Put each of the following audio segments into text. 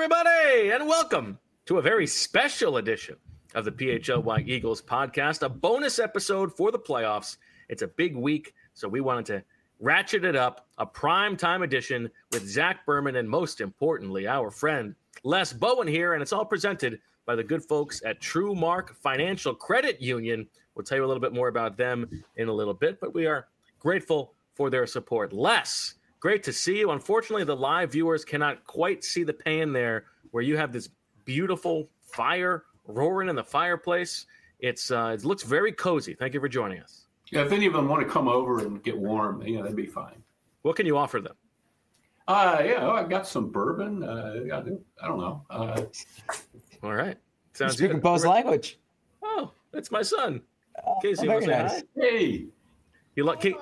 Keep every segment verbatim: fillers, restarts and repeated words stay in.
everybody, and welcome to a very special edition of the P H L Y Eagles podcast, a bonus episode for the playoffs. It's a big week, so we wanted to ratchet it up, a prime time edition with Zach Berman and, most importantly, our friend Les Bowen here, and it's all presented by the good folks at TrueMark Financial Credit Union. We'll tell you a little bit more about them in a little bit, but we are grateful for their support. Les, great to see you. Unfortunately, the live viewers cannot quite see the pan there where you have this beautiful fire roaring in the fireplace. It's uh, it looks very cozy. Thank you for joining us. Yeah, if any of them want to come over and get warm, you know, that'd be fine. What can you offer them? Uh, yeah, well, I got some bourbon. Uh, I don't know. Uh, All right. Sounds Speaking good. Poe's language. Oh, that's my son. Oh, Casey, you very want to say nice. hi? hey, You like Ke-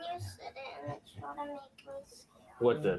what the?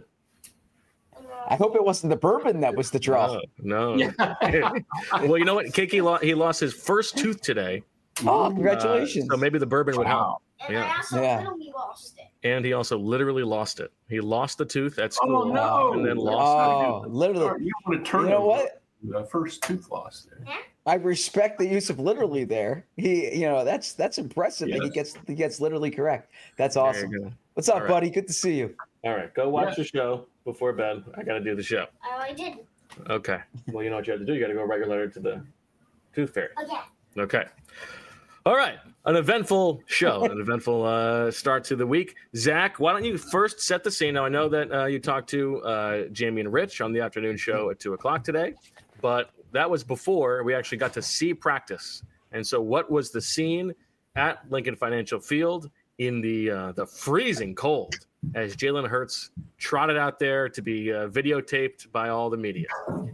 I hope it wasn't the bourbon that was the draw. No, no. Well, you know what? Kiki, lo- he lost his first tooth today. Oh, congratulations. Uh, so maybe the bourbon would help. Wow. And Yeah. I also Yeah. literally lost it. And he also literally lost it. He lost the tooth at school. Oh, no. And then lost Oh, literally. you want to turn You know over what? The first tooth loss there. I respect the use of literally there. He, you know, that's that's impressive that he Yes. gets he gets literally correct. That's There you awesome. go. What's up, All right. buddy? Good to see you. All right, go watch Yeah. the show before bed. I got to do the show. Oh, I did. Okay. Well, you know what you have to do. You got to go regular to the tooth fairy. Okay. Okay. All right. An eventful show, an eventful uh, start to the week. Zach, why don't you first set the scene? Now, I know that uh, you talked to uh, Jamie and Rich on the afternoon show at two o'clock today, but that was before we actually got to see practice. And so what was the scene at Lincoln Financial Field in the uh, the freezing cold as Jalen Hurts trotted out there to be uh, videotaped by all the media?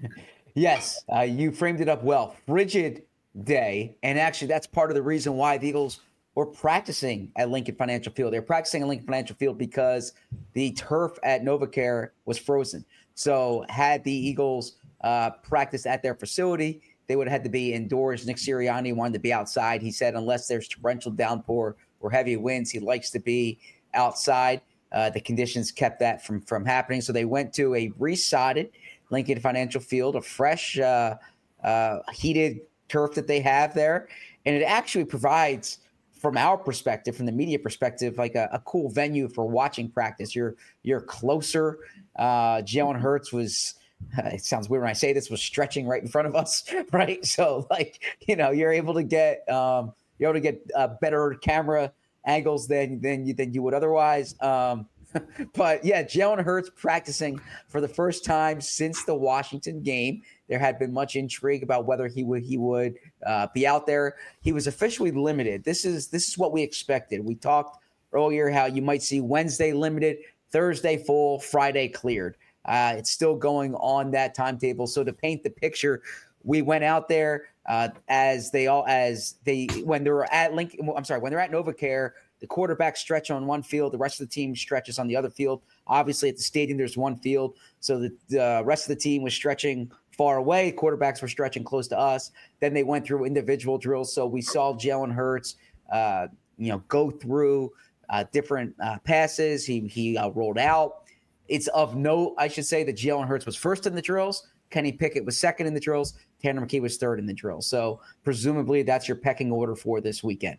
Yes, uh, you framed it up well. Frigid day, and actually that's part of the reason why the Eagles were practicing at Lincoln Financial Field. They're practicing at Lincoln Financial Field because the turf at NovaCare was frozen. So had the Eagles uh, practiced at their facility, they would have had to be indoors. Nick Sirianni wanted to be outside. He said unless there's torrential downpour or heavy winds, he likes to be outside. Uh, the conditions kept that from, from happening. So they went to a resodded Lincoln Financial Field, a fresh, uh, uh, heated turf that they have there. And it actually provides, from our perspective, from the media perspective, like a, a cool venue for watching practice. You're you're closer. Uh, Jalen Hurts was, uh, it sounds weird when I say this, was stretching right in front of us, right? So, like, you know, you're able to get um, you're able to get uh, better camera angles than than you than you would otherwise. Um, but yeah, Jalen Hurts practicing for the first time since the Washington game. There had been much intrigue about whether he would he would uh, be out there. He was officially limited. This is this is what we expected. We talked earlier how you might see Wednesday limited, Thursday full, Friday cleared. Uh, it's still going on that timetable. So to paint the picture, we went out there uh, as they all as they when they were at Lincoln. I'm sorry, when they're at NovaCare, the quarterback stretch on one field, the rest of the team stretches on the other field. Obviously, at the stadium, there's one field, so the, the rest of the team was stretching far away. Quarterbacks were stretching close to us. Then they went through individual drills. So we saw Jalen Hurts, uh, you know, go through uh, different uh, passes. He he uh, rolled out. It's of note, I should say, that Jalen Hurts was first in the drills. Kenny Pickett was second in the drills. Tanner McKee was third in the drills. So presumably that's your pecking order for this weekend.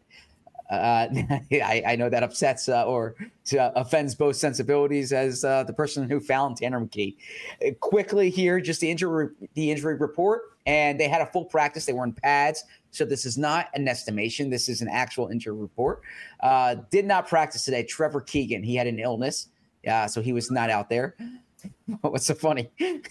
Uh, I, I know that upsets uh, or uh, offends both sensibilities as uh, the person who found Tanner McKee. Uh, quickly here, just the injury the injury report, and they had a full practice. They were in pads, so this is not an estimation. This is an actual injury report. Uh, did not practice today. Trevor Keegan, he had an illness, uh, so he was not out there. What's so funny? It,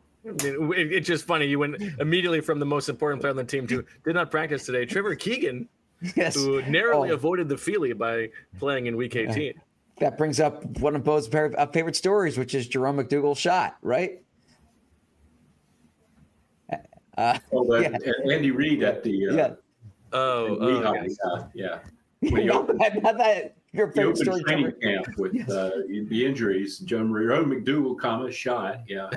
it's just funny. You went immediately from the most important player on the team to did not practice today. Trevor Keegan, Yes. who narrowly Oh. avoided the Feely by playing in week eighteen. That brings up one of Bo's favorite stories, which is Jerome McDougal's shot, right? Uh, Oh, that, yeah. and Andy Reid at the uh, yeah. Oh, in oh Lehigh, yes. uh, yeah. When he not, opened, that, not that your he favorite opened story. training Trevor. camp with uh, the injuries. Jerome McDougal, comma shot. Yeah,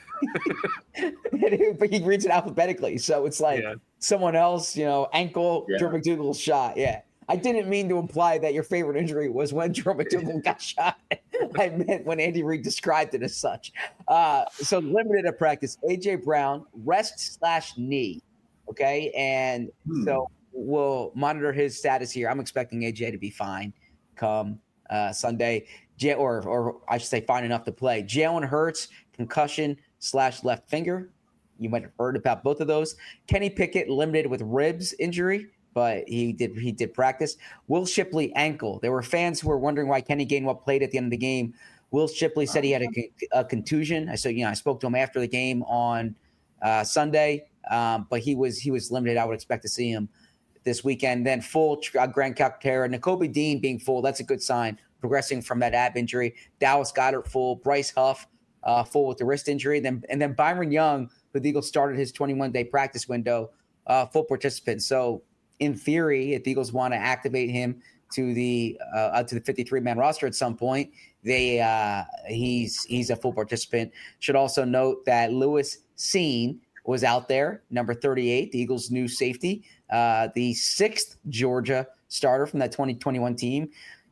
But he reads it alphabetically, so it's like Yeah. someone else, you know, ankle, Yeah. Jerome McDougal's shot. Yeah. I didn't mean to imply that your favorite injury was when Jerome McDougal got shot. I meant when Andy Reid described it as such. Uh, so limited at practice. A J Brown, rest slash knee. Okay. And hmm. so we'll monitor his status here. I'm expecting A J to be fine come uh, Sunday, J- or, or I should say fine enough to play. Jalen Hurts, concussion slash left finger. You might have heard about both of those. Kenny Pickett limited with ribs injury, but he did he did practice. Will Shipley ankle. There were fans who were wondering why Kenny Gainwell played at the end of the game. Will Shipley said he had a, a contusion. I so you know I spoke to him after the game on uh, Sunday, um, but he was he was limited. I would expect to see him this weekend. Then full uh, Grant Calcaterra, Nakobe Dean being full. That's a good sign. Progressing from that ab injury. Dallas Goedert full. Bryce Huff uh, full with the wrist injury. Then and then Byron Young, who the Eagles started his twenty-one day practice window, uh, full participant. So in theory, if the Eagles want to activate him to the uh, to the fifty-three man roster at some point, they uh, he's he's a full participant. Should also note that Lewis Cine was out there, number thirty-eight, the Eagles' new safety, uh, the sixth Georgia starter from that twenty twenty-one team.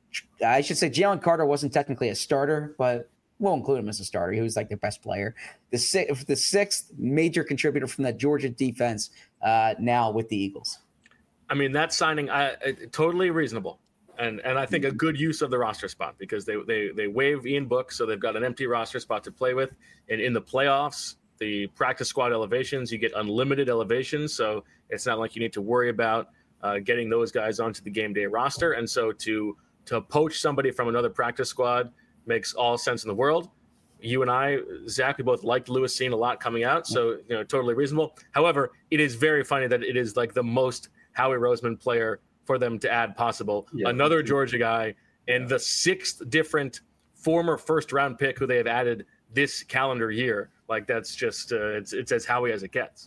I should say Jalen Carter wasn't technically a starter, but we'll include him as a starter. He was like their best player. The sixth, the sixth major contributor from that Georgia defense uh, now with the Eagles. I mean, that signing, I, I, totally reasonable. And and I think a good use of the roster spot because they they they waive Ian Book, so they've got an empty roster spot to play with. And in the playoffs, the practice squad elevations, you get unlimited elevations, so it's not like you need to worry about uh, getting those guys onto the game day roster. And so to to poach somebody from another practice squad makes all sense in the world. You and I, Zach, we both liked Lewis Cine a lot coming out, so you know, totally reasonable. However, it is very funny that it is like the most Howie Roseman player for them to add possible. Yeah. Another Georgia guy and the sixth different former first round pick who they have added this calendar year. Like that's just uh, it's it's as Howie as it gets.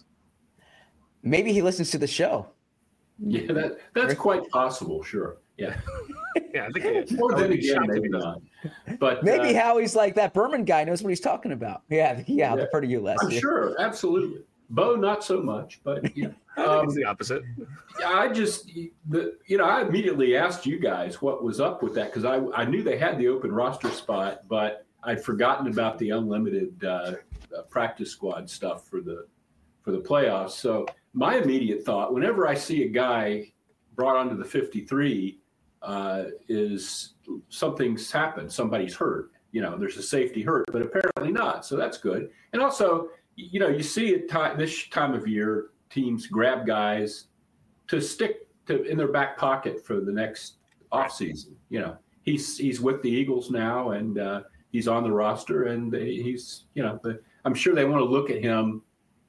Maybe he listens to the show. Yeah, that that's quite possible. Sure. Yeah. yeah, I think it is. More than again, maybe not. But maybe uh, Howie's like that Berman guy knows what he's talking about. Yeah, yeah, I'll defer to you, Les. I'm sure, absolutely. Bo, not so much, but yeah. Um, it's the opposite. I just, the, you know, I immediately asked you guys what was up with that because I, I knew they had the open roster spot, but I'd forgotten about the unlimited uh, uh, practice squad stuff for the for the playoffs. So my immediate thought, whenever I see a guy brought onto the fifty-three, uh, is something's happened. Somebody's hurt. You know, there's a safety hurt, but apparently not. So that's good. And also, you know, you see at time, this time of year, teams grab guys to stick to in their back pocket for the next offseason. You know, he's he's with the Eagles now, and uh, he's on the roster, and he's, you know, the, I'm sure they want to look at him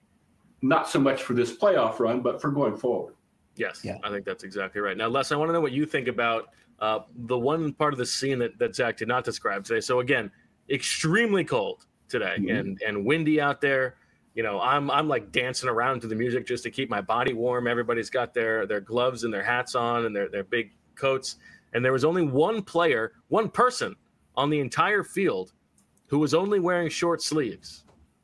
not so much for this playoff run, but for going forward. Yes, yeah. I think that's exactly right. Now, Les, I want to know what you think about uh, the one part of the scene that, that Zach did not describe today. So, again, extremely cold today mm-hmm. and, and windy out there. You know, I'm I'm like dancing around to the music just to keep my body warm. Everybody's got their their gloves and their hats on and their, their big coats. And there was only one player, one person on the entire field who was only wearing short sleeves.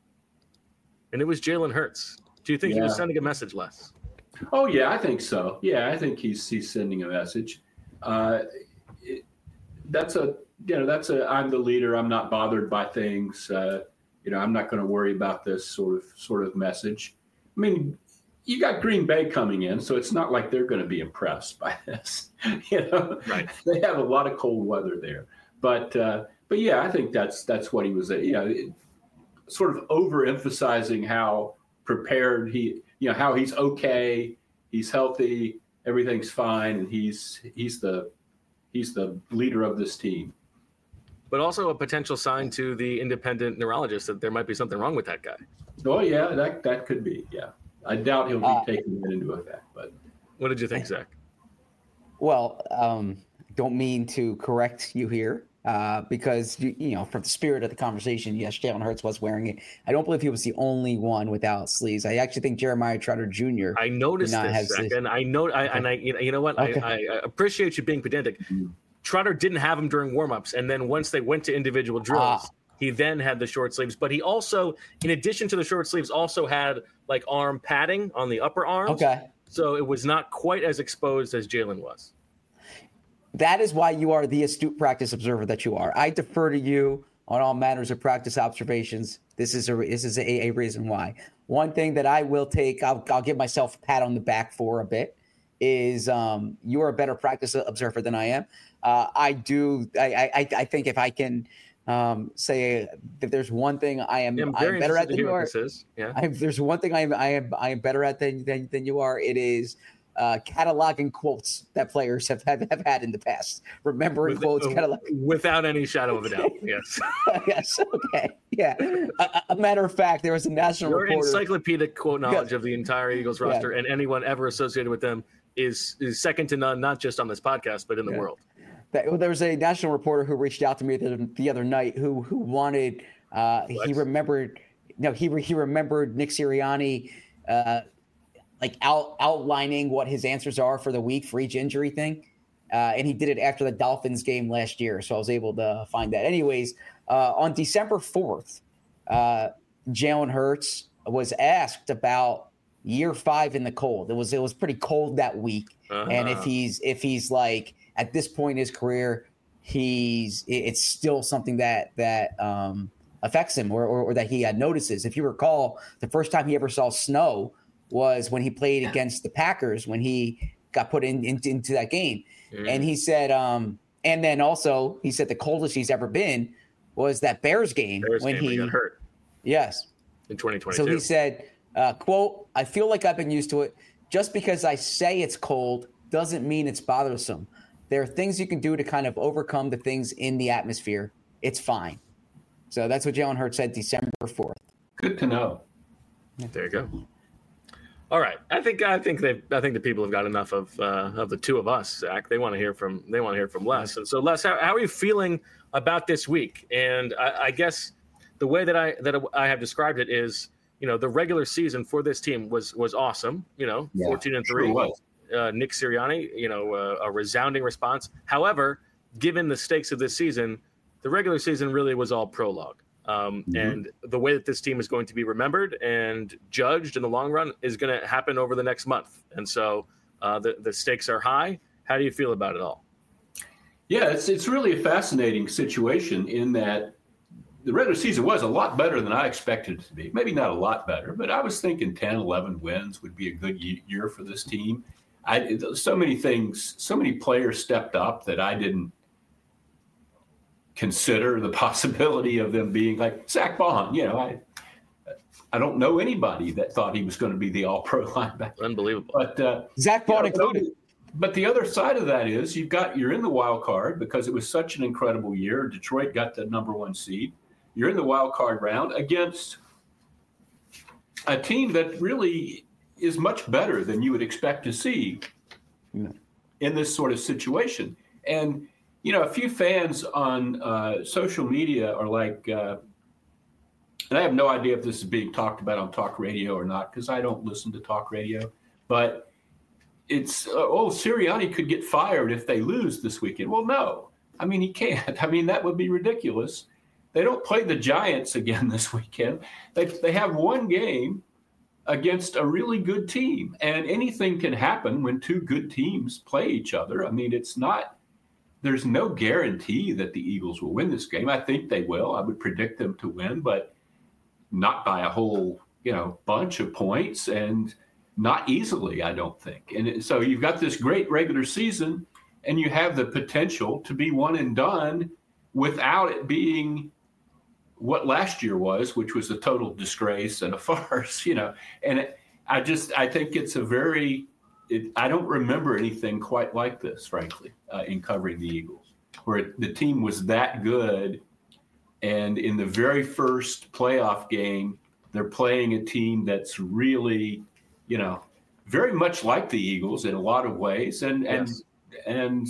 And it was Jalen Hurts. Do you think yeah. he was sending a message, Les? Oh, yeah, I think so. Yeah, I think he's he's sending a message. Uh, it, that's a, you know, that's a, I'm the leader. I'm not bothered by things. Uh, you know, I'm not going to worry about this sort of sort of message. I mean, you got Green Bay coming in, so it's not like they're going to be impressed by this. You know, right? They have a lot of cold weather there, but uh, but yeah, I think that's that's what he was. You know, it, sort of overemphasizing how prepared he, you know, how he's okay, he's healthy, everything's fine, and he's he's the he's the leader of this team. But also a potential sign to the independent neurologist that there might be something wrong with that guy. Oh yeah, that that could be. Yeah, I doubt he'll be uh, taking that into effect. But what did you think, Zach? Well, um, don't mean to correct you here. Uh, because, you, you know, from the spirit of the conversation, yes, Jalen Hurts was wearing it. I don't believe he was the only one without sleeves. I actually think Jeremiah Trotter Junior I noticed this, Zach, and I know, I, okay. and I, you know what? Okay. I, I appreciate you being pedantic. Mm-hmm. Trotter didn't have them during warmups, and then once they went to individual drills, ah. he then had the short sleeves. But he also, in addition to the short sleeves, also had like arm padding on the upper arms. Okay. So it was not quite as exposed as Jalen was. that is why you are the astute practice observer that you are. I defer to you on all matters of practice observations. This is a this is a, a reason why. One thing that I will take, I'll, I'll give myself a pat on the back for a bit, is um, you're a better practice observer than I am. Uh, I do. I, I I think if I can um, say that there's one thing I am yeah, I'm, I'm better at than you are. Yeah. I, there's one thing I am I am I am better at than than, than you are. It is uh, cataloging quotes that players have, have, have had in the past. Remembering With, quotes, uh, cataloging. Without any shadow of a doubt. Yes. Yes. Okay. Yeah. A, a matter of fact, there was a national Your reporter. encyclopedic quote knowledge Yes. of the entire Eagles roster Yeah. and anyone ever associated with them is is second to none, not just on this podcast, but in the Yeah. world. That, there was a national reporter who reached out to me the, the other night who who wanted uh, he remembered no he re, he remembered Nick Sirianni uh, like out, outlining what his answers are for the week for each injury thing, uh, and he did it after the Dolphins game last year, so I was able to find that. Anyways, uh, on December fourth, uh, Jalen Hurts was asked about year five in the cold. It was it was pretty cold that week, Uh-huh. and if he's if he's like. At this point in his career, he's it's still something that that um, affects him or, or, or that he uh, notices. If you recall, the first time he ever saw snow was when he played against the Packers when he got put in, in into that game. Mm. And he said, um, and then also he said the coldest he's ever been was that Bears game Bears when game he, when he got hurt yes, in twenty twenty-two. so he said, uh, quote, I feel like I've been used to it. Just because I say it's cold doesn't mean it's bothersome. There are things you can do to kind of overcome the things in the atmosphere. It's fine. So that's what Jalen Hurts said December fourth. Good to know. There you go. All right, I think I think they I think the people have got enough of uh, of the two of us, Zach. They want to hear from they want to hear from Les. And so, Les, how, how are you feeling about this week? And I, I guess the way that I that I have described it is, you know, the regular season for this team was was awesome. You know, Yeah, fourteen and sure three. was. Uh, Nick Sirianni, you know, uh, a resounding response. However, given the stakes of this season, the regular season really was all prologue. Um, Mm-hmm. And the way that this team is going to be remembered and judged in the long run is going to happen over the next month. And so uh, the, the stakes are high. How do you feel about it all? Yeah, it's it's really a fascinating situation in that the regular season was a lot better than I expected it to be. Maybe not a lot better, but I was thinking ten, eleven wins would be a good year for this team. I, so many things, so many players stepped up that I didn't consider the possibility of them being like Zach Bond. You know, I I don't know anybody that thought he was going to be the all-pro linebacker. Unbelievable. But uh, Zach Bond you know, included. But the other side of that is you've got you're in the wild card because it was such an incredible year. Detroit got the number one seed. You're in the wild card round against a team that really is much better than you would expect to see Yeah. in this sort of situation. And, you know, a few fans on uh, social media are like, uh, and I have no idea if this is being talked about on talk radio or not, because I don't listen to talk radio, but it's, uh, oh, Sirianni could get fired if they lose this weekend. Well, no, I mean, he can't. I mean, that would be ridiculous. They don't play the Giants again this weekend. They they have one game against a really good team, and anything can happen when two good teams play each other. I mean, it's not, there's no guarantee that the Eagles will win this game. I think they will. I would predict them to win, but not by a whole, you know, bunch of points and not easily, I don't think. And so you've got this great regular season and you have the potential to be one and done without it being what last year was, which was a total disgrace and a farce, you know. And it, I just, I think it's a very, it, I don't remember anything quite like this, frankly, uh, in covering the Eagles, where it, the team was that good. And in the very first playoff game, they're playing a team that's really, you know, very much like the Eagles in a lot of ways, and Yes. and and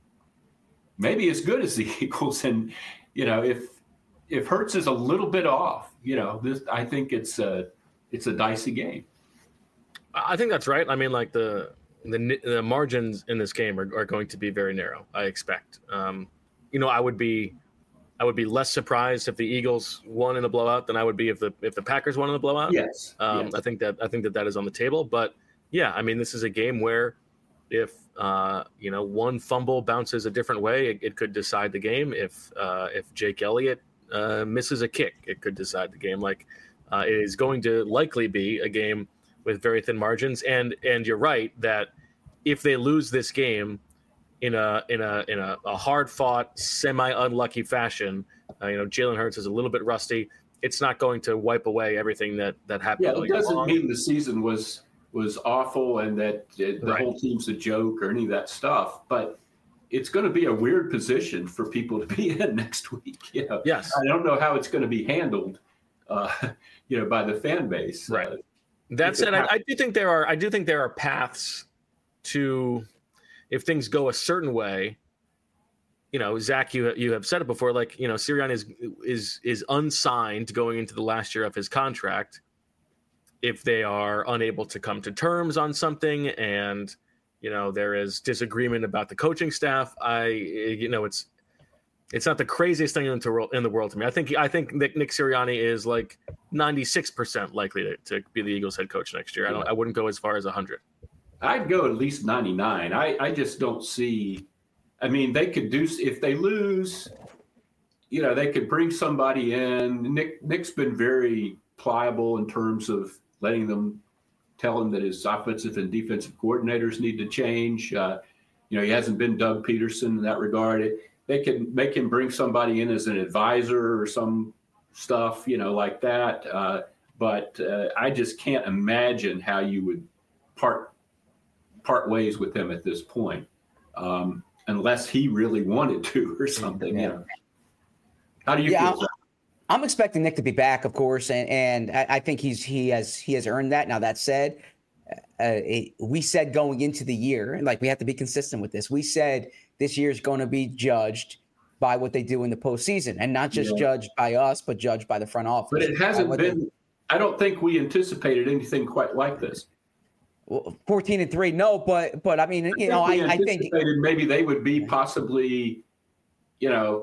maybe as good as the Eagles. And you know, if if Hurts is a little bit off, you know, this I think it's a it's a dicey game. I think that's right. I mean, like the the, the margins in this game are, are going to be very narrow, I expect. Um, you know, I would be I would be less surprised if the Eagles won in a blowout than I would be if the if the Packers won in a blowout. Yes. Um, yes. I think that I think that that is on the table. But yeah, I mean, this is a game where If uh, you know one fumble bounces a different way, it, it could decide the game. If uh, if Jake Elliott uh, misses a kick, it could decide the game. Like uh, it is going to likely be a game with very thin margins. And and you're right that if they lose this game in a in a in a, a hard fought, semi unlucky fashion, uh, you know Jalen Hurts is a little bit rusty. It's not going to wipe away everything that that happened. Yeah, it doesn't mean the season was. was awful and that the right. whole team's a joke or any of that stuff, but it's going to be a weird position for people to be in next week. You know? Yes. I don't know how it's going to be handled, uh, you know, by the fan base. Right. Uh, that said, I, I do think there are, I do think there are paths to, if things go a certain way, you know, Zach, you, you have said it before, like, you know, Sirianni is, is, is unsigned going into the last year of his contract. If they are unable to come to terms on something and, you know, there is disagreement about the coaching staff, I, you know, it's, it's not the craziest thing in the, in the world to me. I think, I think Nick, Nick Sirianni is like ninety-six percent likely to, to be the Eagles head coach next year. I don't, I wouldn't go as far as a hundred. I'd go at least ninety-nine. I, I just don't see, I mean, they could do, if they lose, you know, they could bring somebody in. Nick, Nick's been very pliable in terms of letting them tell him that his offensive and defensive coordinators need to change. Uh, you know, he hasn't been Doug Peterson in that regard. It, they can make him bring somebody in as an advisor or some stuff, you know, like that. Uh, but uh, I just can't imagine how you would part part ways with him at this point, um, unless he really wanted to or something. Yeah. You know, how do you yeah, feel? I'm expecting Nick to be back, of course, and, and I, I think he's he has he has earned that. Now that said, uh, it, we said going into the year, and like we have to be consistent with this. We said this year is going to be judged by what they do in the postseason, and not just yeah. judged by us, but judged by the front office. But it hasn't been. They, I don't think we anticipated anything quite like this. Well, fourteen and three, no, but but I mean, you I know, I, I think maybe they would be possibly, you know.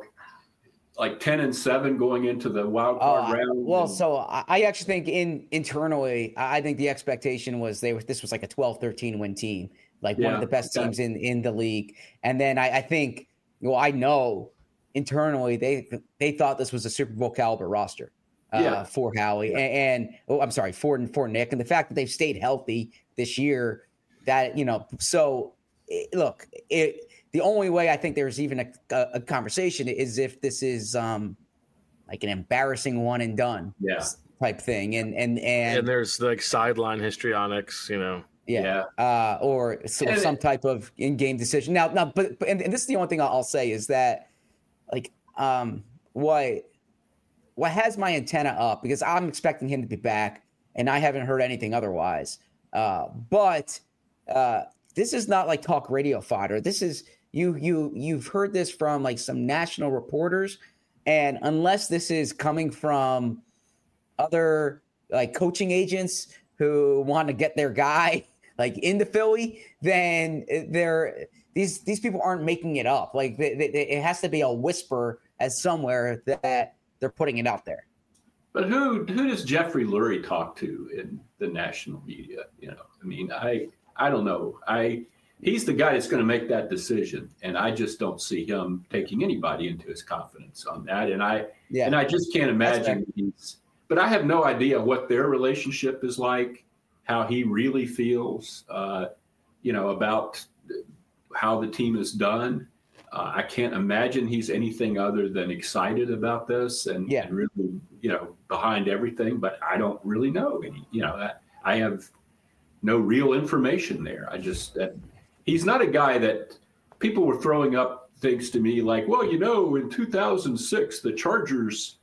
Like ten and seven going into the wild card uh, round. Well, so I actually think in internally, I think the expectation was they were, this was like a twelve, thirteen win team, like yeah, one of the best okay. teams in, in the league. And then I, I think, well, I know internally they they thought this was a Super Bowl caliber roster uh, yeah. for Howie yeah. and, and oh, I'm sorry, for for Nick, and the fact that they've stayed healthy this year, that you know, so it, look it. The only way I think there's even a, a, a conversation is if this is um, like an embarrassing one and done yeah. type thing. And, and, and, and there's like sideline histrionics, you know. Yeah. yeah. Uh, or so, some type of in-game decision. Now, now but, but and, and this is the only thing I'll say is that like um, what, what has my antenna up, because I'm expecting him to be back and I haven't heard anything otherwise. Uh, but uh, this is not like talk radio fodder. This is, You you you've heard this from like some national reporters, and unless this is coming from other like coaching agents who want to get their guy like into Philly, then they're these these people aren't making it up. Like they, they, it has to be a whisper as somewhere that they're putting it out there. But who who does Jeffrey Lurie talk to in the national media? You know, I mean, I I don't know. I. He's the guy that's going to make that decision, and I just don't see him taking anybody into his confidence on that. And I yeah. and I just can't imagine he's. But I have no idea what their relationship is like, how he really feels, uh, you know, about how the team is done. Uh, I can't imagine he's anything other than excited about this and, yeah. and really, you know, behind everything. But I don't really know any. You know, I, I have no real information there. I just. Uh, He's not a guy that people were throwing up things to me like, well, you know, in two thousand six, the Chargers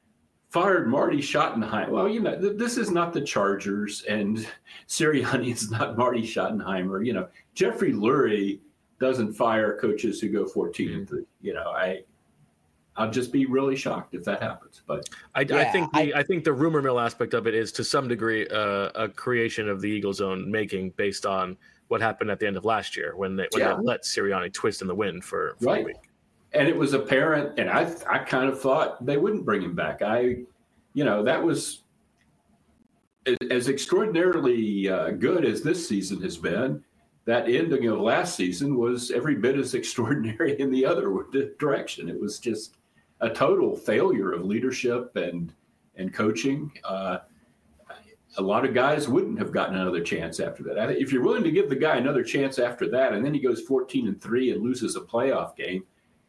fired Marty Schottenheimer. Well, you know, th- this is not the Chargers, and Sirianni is not Marty Schottenheimer. You know, Jeffrey Lurie doesn't fire coaches who go fourteen and three. You know, I, I'll just be really shocked if that happens. But I, yeah, I think the, I, I think the rumor mill aspect of it is to some degree uh, a creation of the Eagles' own making based on what happened at the end of last year when they, when yeah. they let Sirianni twist in the wind for, for right. a week. And it was apparent, and I I kind of thought they wouldn't bring him back. I, you know, that was as, as extraordinarily uh, good as this season has been. that ending of last season was every bit as extraordinary in the other direction. It was just a total failure of leadership and and coaching. Uh, a lot of guys wouldn't have gotten another chance after that. If you're willing to give the guy another chance after that, and then he goes fourteen and three and loses a playoff game.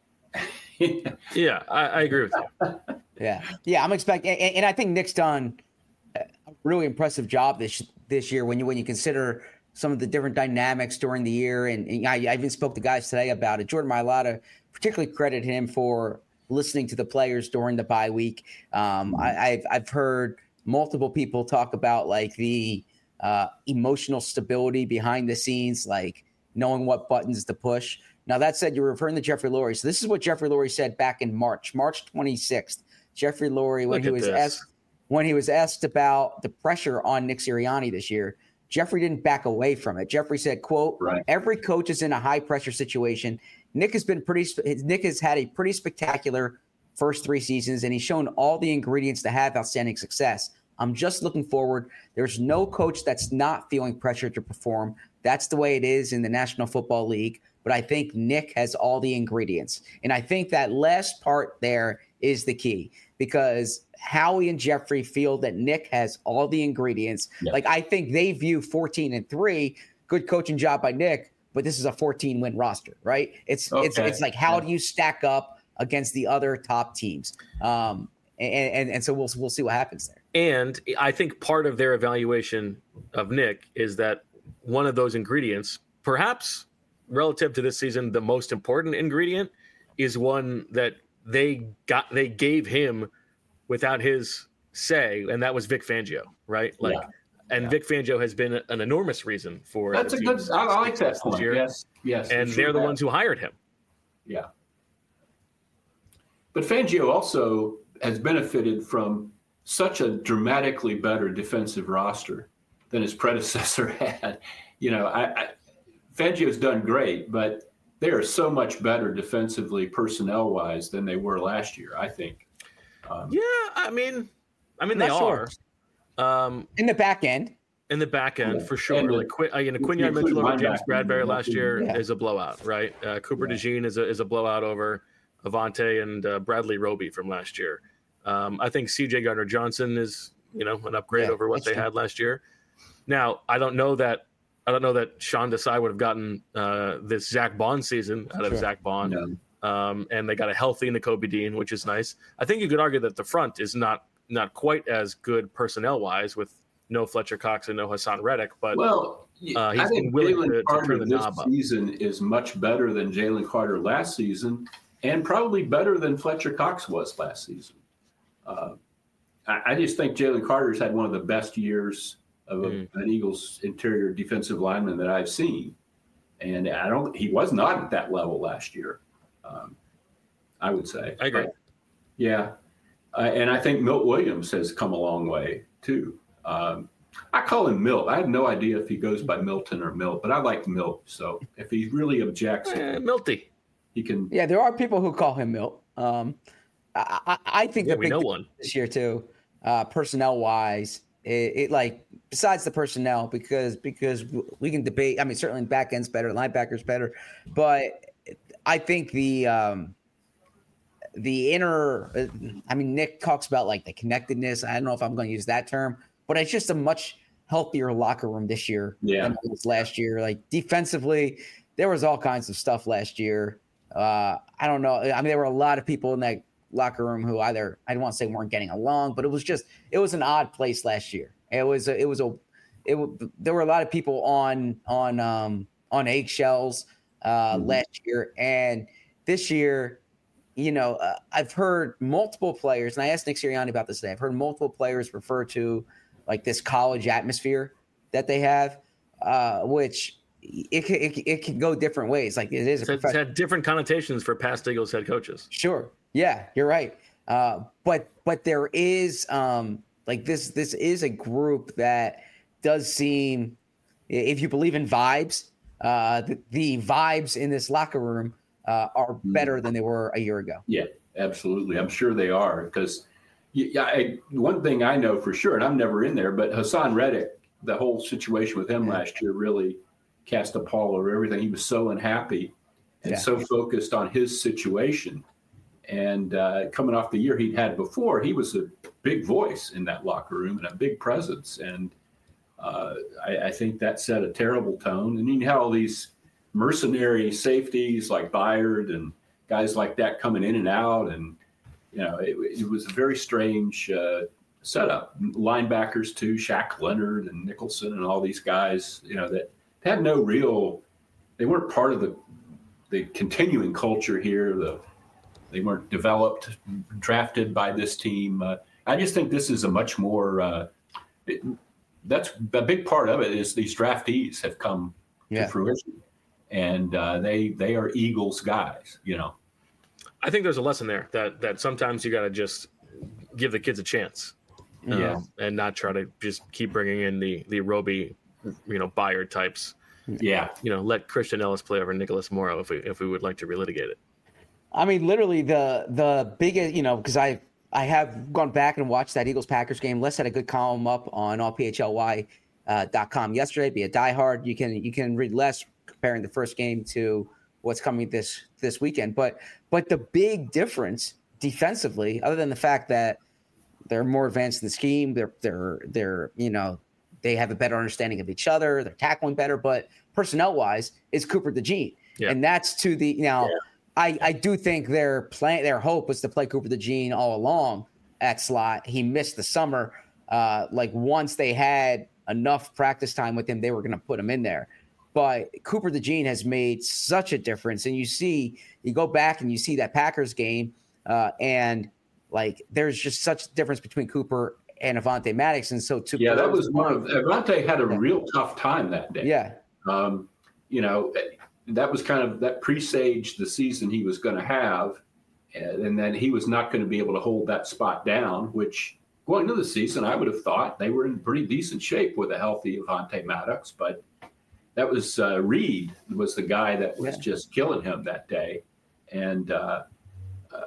yeah, I, I agree with you. Yeah, yeah, I'm expecting, and, and I think Nick's done a really impressive job this this year when you when you consider some of the different dynamics during the year. And, and I, I even spoke to guys today about it. Jordan Mailata particularly credit him for listening to the players during the bye week. Um, I, I've I've heard multiple people talk about like the uh, emotional stability behind the scenes, like knowing what buttons to push. Now, that said, you're referring to Jeffrey Lurie. So this is what Jeffrey Lurie said back in March, March twenty-sixth. Jeffrey Lurie, when Look he at was this. asked when he was asked about the pressure on Nick Sirianni this year, Jeffrey didn't back away from it. Jeffrey said, quote, Right. every coach is in a high pressure situation. Nick has been pretty, Nick has had a pretty spectacular first three seasons, and he's shown all the ingredients to have outstanding success. I'm just looking forward. There's no coach that's not feeling pressure to perform. That's the way it is in the National Football League. But I think Nick has all the ingredients. And I think that last part there is the key, because Howie and Jeffrey feel that Nick has all the ingredients. Yeah. Like, I think they view fourteen and three, good coaching job by Nick, but this is a fourteen win roster, right? It's Okay. it's it's like, how Yeah. do you stack up against the other top teams? Um, and, and and so we'll we'll see what happens there. And I think part of their evaluation of Nick is that one of those ingredients, perhaps relative to this season, the most important ingredient, is one that they got they gave him without his say, and that was Vic Fangio, right? Like, Yeah. and Yeah. Vic Fangio has been an enormous reason for That's the a good. team's I, I like that success point. this year. Yes, yes. And for they're sure the that. ones who hired him. Yeah. But Fangio also has benefited from such a dramatically better defensive roster than his predecessor had. You know, I, I Fangio's done great, but they are so much better defensively, personnel-wise, than they were last year, I think. Um, Yeah, I mean, I mean Not they sure. are um, In the back end, in the back end Yeah. for sure. And the- like Quinn, uh, you know, if you Quinion include Mitchell over James linebackers, Bradbury then last that's year even- yeah. is a blowout, right? Uh, Cooper Yeah. DeJean is a is a blowout over Avante and uh, Bradley Roby from last year. Um, I think C J Gardner Johnson is, you know, an upgrade Yeah, over what that's they true. had last year. Now, I don't know that I don't know that Sean Desai would have gotten uh, this Zach Bond season out of Sure. Zach Bond. no. Um, and they got a healthy Nakobe Dean, which is nice. I think you could argue that the front is not not quite as good personnel wise with no Fletcher Cox and no Hassan Reddick, but Well, Uh, he's I think been willing Jalen to- to Carter turn the this knob up. season is much better than Jalen Carter last season, and probably better than Fletcher Cox was last season. Uh, I, I just think Jalen Carter's had one of the best years of a, Mhm. an Eagles interior defensive lineman that I've seen, and I don't. He was not at that level last year. Um, I would say. I agree. But, yeah, uh, and I think Milt Williams has come a long way too. Um, I call him Milt. I have no idea if he goes by Milton or Milt, but I like Milt. So if he really objects, eh, Milty. he can. yeah, there are people who call him Milt. Um, I, I, I think Yeah, the we big know thing one. this year too, uh, personnel wise, it, it like besides the personnel, because because we can debate. I mean, certainly back end's better, linebackers better, but I think the um, the inner. uh, I mean, Nick talks about like the connectedness. I don't know if I'm going to use that term, but it's just a much healthier locker room this year Yeah. than it was last year. Like defensively, there was all kinds of stuff last year. Uh, I don't know. I mean, there were a lot of people in that locker room who either I don't want to say weren't getting along, but it was just it was an odd place last year. It was a, it was a it w- there were a lot of people on on um, on eggshells uh, Mhm. last year, and this year, you know, uh, I've heard multiple players, and I asked Nick Sirianni about this today. I've heard multiple players refer to like this college atmosphere that they have, uh, which it, ca- it, it can go different ways. Like it is a It's, it's professional. had different connotations for past Eagles head coaches. Sure. Yeah, you're right. Uh, but but there is um, like this this is a group that does seem, if you believe in vibes, uh, the, the vibes in this locker room uh, are better than they were a year ago. Yeah, absolutely. I'm sure they are because yeah, I, one thing I know for sure, and I'm never in there, but Hassan Reddick, the whole situation with him Yeah. last year really cast a pall over everything. He was so unhappy and Yeah. so focused on his situation. And uh, coming off the year he'd had before, he was a big voice in that locker room and a big presence. And uh, I, I think that set a terrible tone. And you had all these mercenary safeties like Byard and guys like that coming in and out. And, you know, it, it was a very strange uh, setup. Linebackers, too, Shaq Leonard and Nicholson and all these guys, you know, that had no real – they weren't part of the the continuing culture here. The They weren't developed, drafted by this team. Uh, I just think this is a much more uh, it, that's a big part of it is these draftees have come yeah. to fruition, and uh, they they are Eagles guys, you know. I think there's a lesson there that that sometimes you got to just give the kids a chance, Yeah. um, and not try to just keep bringing in the the Roby, you know, Byard types. Yeah, You know, let Christian Ellis play over Nicholas Morrow if we if we would like to relitigate it. I mean, literally the the biggest, you know, because I I have gone back and watched that Eagles Packers game. Les had a good column up on all P H L Y dot com yesterday. Be a diehard. You can you can read Les comparing the first game to what's coming this this weekend. But but the big difference defensively, other than the fact that they're more advanced in the scheme, they're they're they're you know they have a better understanding of each other, they're tackling better. But personnel wise, is Cooper DeJean, Yeah. and that's to the now. Yeah. I, I do think their plan, their hope was to play Cooper DeJean all along at slot. He missed the summer. Uh, like once they had enough practice time with him, they were going to put him in there. But Cooper DeJean has made such a difference. And you see, you go back and you see that Packers game, uh, and like there's just such a difference between Cooper and Avonte Maddox. And so, to yeah, that was one of Avonte had a yeah. real tough time that day. Yeah, um, you know. That was kind of that presaged the season he was going to have, and, and then he was not going to be able to hold that spot down, which going into the season, I would have thought they were in pretty decent shape with a healthy Avonte Maddox, but that was uh, Reed was the guy that was yeah. just killing him that day. And uh, uh,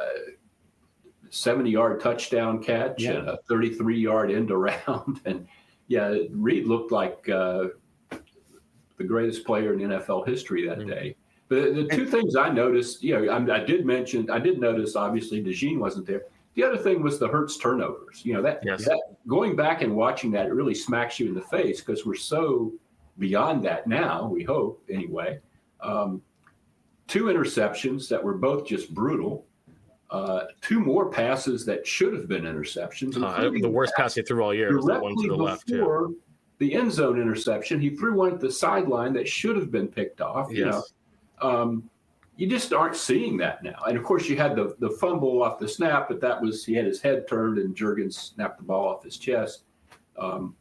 seventy-yard touchdown catch yeah. and a thirty-three-yard end around. And, yeah, Reed looked like uh, – the greatest player in N F L history that day. But the two things I noticed, you know, I, I did mention, I did notice, obviously, DeJean wasn't there. The other thing was the Hurts turnovers. You know, that, yes. that going back and watching that, it really smacks you in the face because we're so beyond that now, we hope, anyway. Um, two interceptions that were both just brutal. Uh, two more passes that should have been interceptions. Uh, the worst pass he threw all year was the one to the left. Yeah. The end zone interception, he threw one at the sideline that should have been picked off. You yes. know, um, you just aren't seeing that now. And of course, you had the the fumble off the snap, but that was he had his head turned and Juergens snapped the ball off his chest. Um,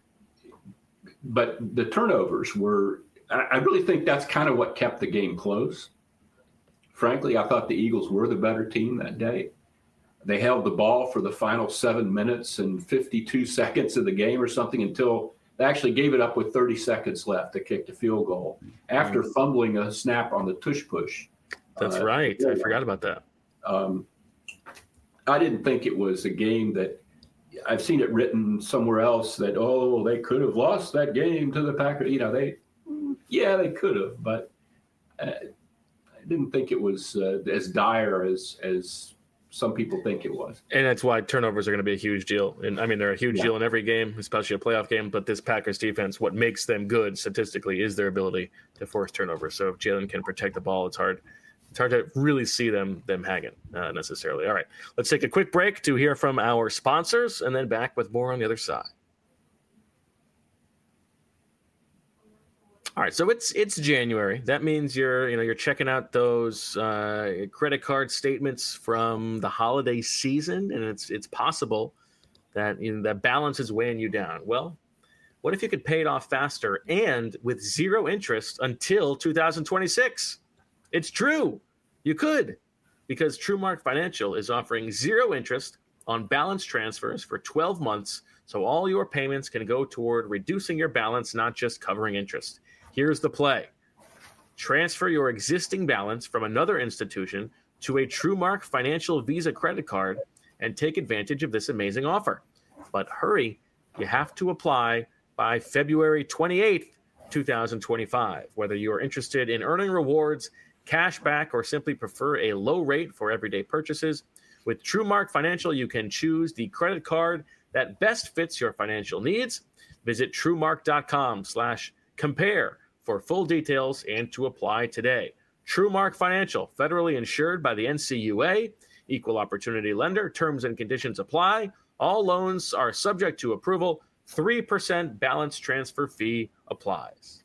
but the turnovers were. I really think that's kind of what kept the game close. Frankly, I thought the Eagles were the better team that day. They held the ball for the final seven minutes and fifty-two seconds of the game or something until. They actually gave it up with thirty seconds left to kick the field goal after mm-hmm. fumbling a snap on the tush push. That's uh, right. I forgot about that. Um, I didn't think it was a game that I've seen it written somewhere else that, oh, they could have lost that game to the Packers. You know, they, yeah, they could have, but uh, I didn't think it was uh, as dire as, as, some people think it was. And that's why turnovers are going to be a huge deal. And I mean, they're a huge yeah. deal in every game, especially a playoff game. But this Packers defense, what makes them good statistically is their ability to force turnovers. So if Jalen can protect the ball, it's hard. It's hard to really see them them hanging uh, necessarily. All right, let's take a quick break to hear from our sponsors, and then back with more on the other side. All right, so it's it's January. That means you're you know you're checking out those uh, credit card statements from the holiday season, and it's it's possible that you know, that balance is weighing you down. Well, what if you could pay it off faster and with zero interest until two thousand twenty-six? It's true, you could, because TrueMark Financial is offering zero interest on balance transfers for twelve months, so all your payments can go toward reducing your balance, not just covering interest. Here's the play. Transfer your existing balance from another institution to a TrueMark Financial Visa credit card and take advantage of this amazing offer. But hurry, you have to apply by February twenty-eighth two thousand twenty-five. Whether you are interested in earning rewards, cash back, or simply prefer a low rate for everyday purchases, with TrueMark Financial, you can choose the credit card that best fits your financial needs. Visit TrueMark.com slash compare for full details and to apply today. TrueMark Financial, federally insured by the N C U A, equal opportunity lender. Terms and conditions apply. All loans are subject to approval. three percent balance transfer fee applies.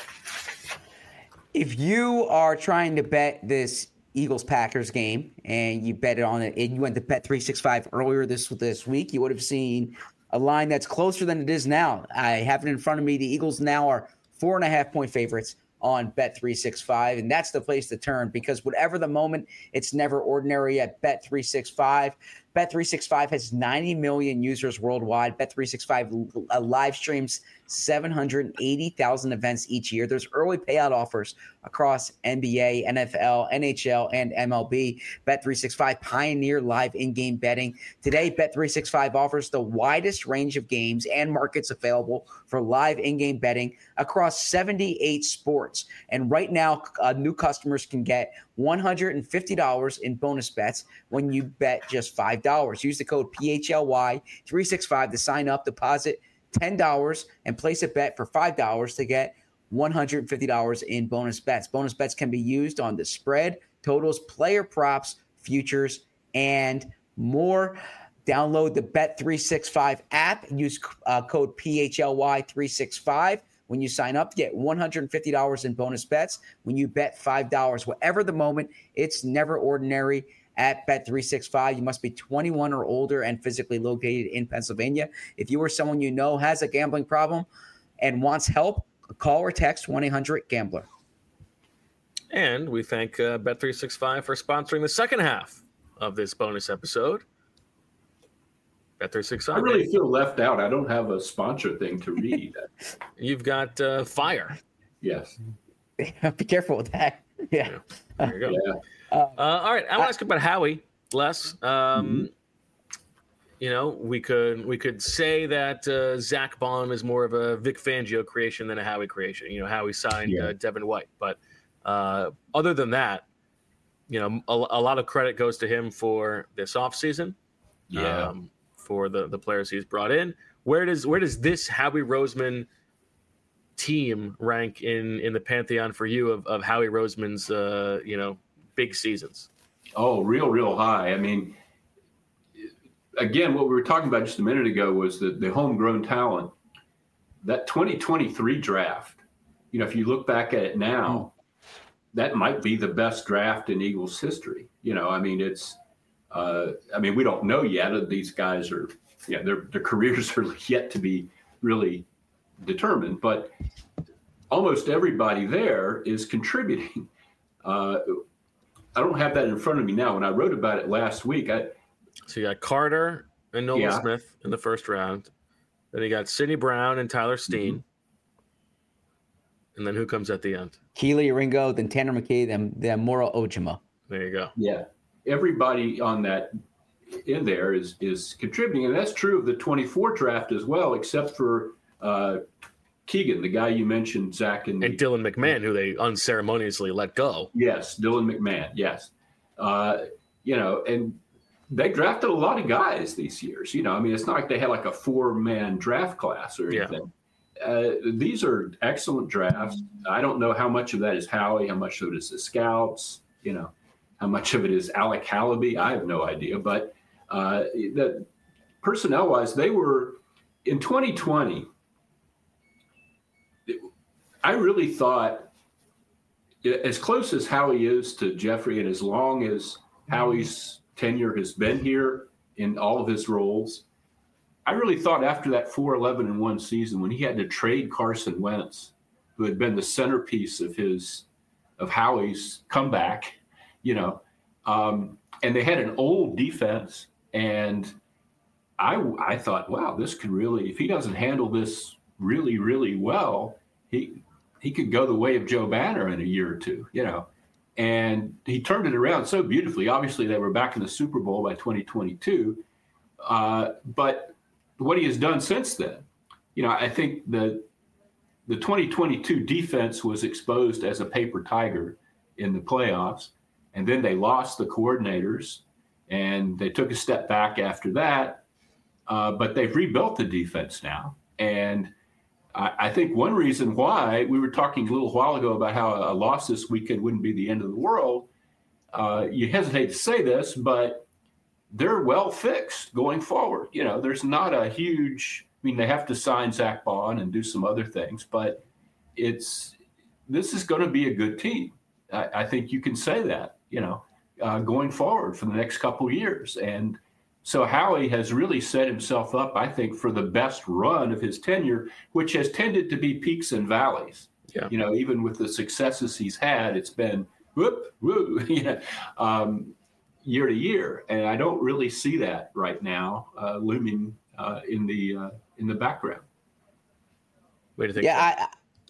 If you are trying to bet this Eagles-Packers game and you bet it on it, and you went to Bet three sixty-five earlier this this week, you would have seen a line that's closer than it is now. I have it in front of me. The Eagles now are four and a half point favorites on Bet three sixty-five, and that's the place to turn because whatever the moment, it's never ordinary at Bet three sixty-five. Bet three sixty-five has ninety million users worldwide. Bet three sixty-five uh, live streams seven hundred eighty thousand events each year. There's early payout offers across N B A, N F L, N H L, and M L B. Bet three sixty-five pioneer live in-game betting. Today, Bet three sixty-five offers the widest range of games and markets available for live in-game betting across seventy-eight sports. And right now, uh, new customers can get one hundred fifty dollars in bonus bets when you bet just five dollars. Use the code P H L Y three sixty-five to sign up, deposit ten dollars, and place a bet for five dollars to get one hundred fifty dollars in bonus bets. Bonus bets can be used on the spread, totals, player props, futures, and more. Download the Bet three sixty-five app. Use uh, code P H L Y three sixty-five. When you sign up, to get one hundred fifty dollars in bonus bets when you bet five dollars. Whatever the moment, it's never ordinary at Bet three sixty-five. You must be twenty-one or older and physically located in Pennsylvania. If you or someone you know has a gambling problem and wants help, call or text one eight hundred gambler. And we thank uh, Bet three sixty-five for sponsoring the second half of this bonus episode. Bet three sixty-five. I really feel left out. I don't have a sponsor thing to read. You've got uh, Fire. Yes. Be careful with that. Yeah. Yeah. There you go. Yeah. Uh, all right. I want to ask about Howie, Les. Um, Mm-hmm. You know, we could we could say that uh, Zach Baum is more of a Vic Fangio creation than a Howie creation. You know, Howie signed Yeah. uh, Devin White, but uh, other than that, you know, a, a lot of credit goes to him for this offseason. Yeah. Um, for the, the players he's brought in. Where does where does this Howie Roseman team rank in, in the pantheon for you of, of Howie Roseman's uh, you know, big seasons? Oh, real, real high. I mean, again, what we were talking about just a minute ago was the, the homegrown talent. That twenty twenty-three draft, you know, if you look back at it now, that might be the best draft in Eagles history. You know, I mean, it's, uh, I mean, we don't know yet. These guys are, yeah, their their careers are yet to be really determined, but almost everybody there is contributing. Uh, I don't have that in front of me now. When I wrote about it last week, I, So you got Carter and Nolan Yeah. Smith in the first round. Then you got Sidney Brown and Tyler Steen. Mm-hmm. And then who comes at the end? Keely Ringo, then Tanner McKee, then, then Moro Ojima. There you go. yeah, everybody on that in there is is contributing, and that's true of the twenty-four draft as well, except for uh, Keegan, the guy you mentioned, Zach, and, And Dylan McMahon, who they unceremoniously let go. yes, Dylan McMahon, yes, uh, you know, and they drafted a lot of guys these years. You know, I mean, it's not like they had like a four-man draft class or Yeah. anything. Uh, these are excellent drafts. I don't know how much of that is Howie, how much of it is the scouts, you know, how much of it is Alec Hallaby. I have no idea. But uh, that personnel-wise, they were in twenty twenty. I really thought, as close as Howie is to Jeffrey, and as long as Howie's tenure has been here in all of his roles, I really thought after that four eleven and one season, when he had to trade Carson Wentz, who had been the centerpiece of his of Howie's comeback, you know, um, and they had an old defense, and I I thought, wow, this could really, if he doesn't handle this really really well, he he could go the way of Joe Banner in a year or two, you know. And he turned it around so beautifully. Obviously, they were back in the Super Bowl by twenty twenty-two, uh, but what he has done since then, you know, I think that the twenty twenty-two defense was exposed as a paper tiger in the playoffs, and then they lost the coordinators, and they took a step back after that. Uh, but they've rebuilt the defense now, and I, I think one reason why we were talking a little while ago about how a loss this weekend wouldn't be the end of the world. Uh, you hesitate to say this, but they're well fixed going forward. You know, there's not a huge. I mean, they have to sign Zach Bond and do some other things, but it's this is going to be a good team. I, I think you can say that, you know, uh, going forward for the next couple of years. And so Howie has really set himself up, I think, for the best run of his tenure, which has tended to be peaks and valleys. Yeah. You know, even with the successes he's had, it's been whoop, woo, you know, um, year to year. And I don't really see that right now uh, looming uh, in the uh, in the background. What do you think? Yeah, I,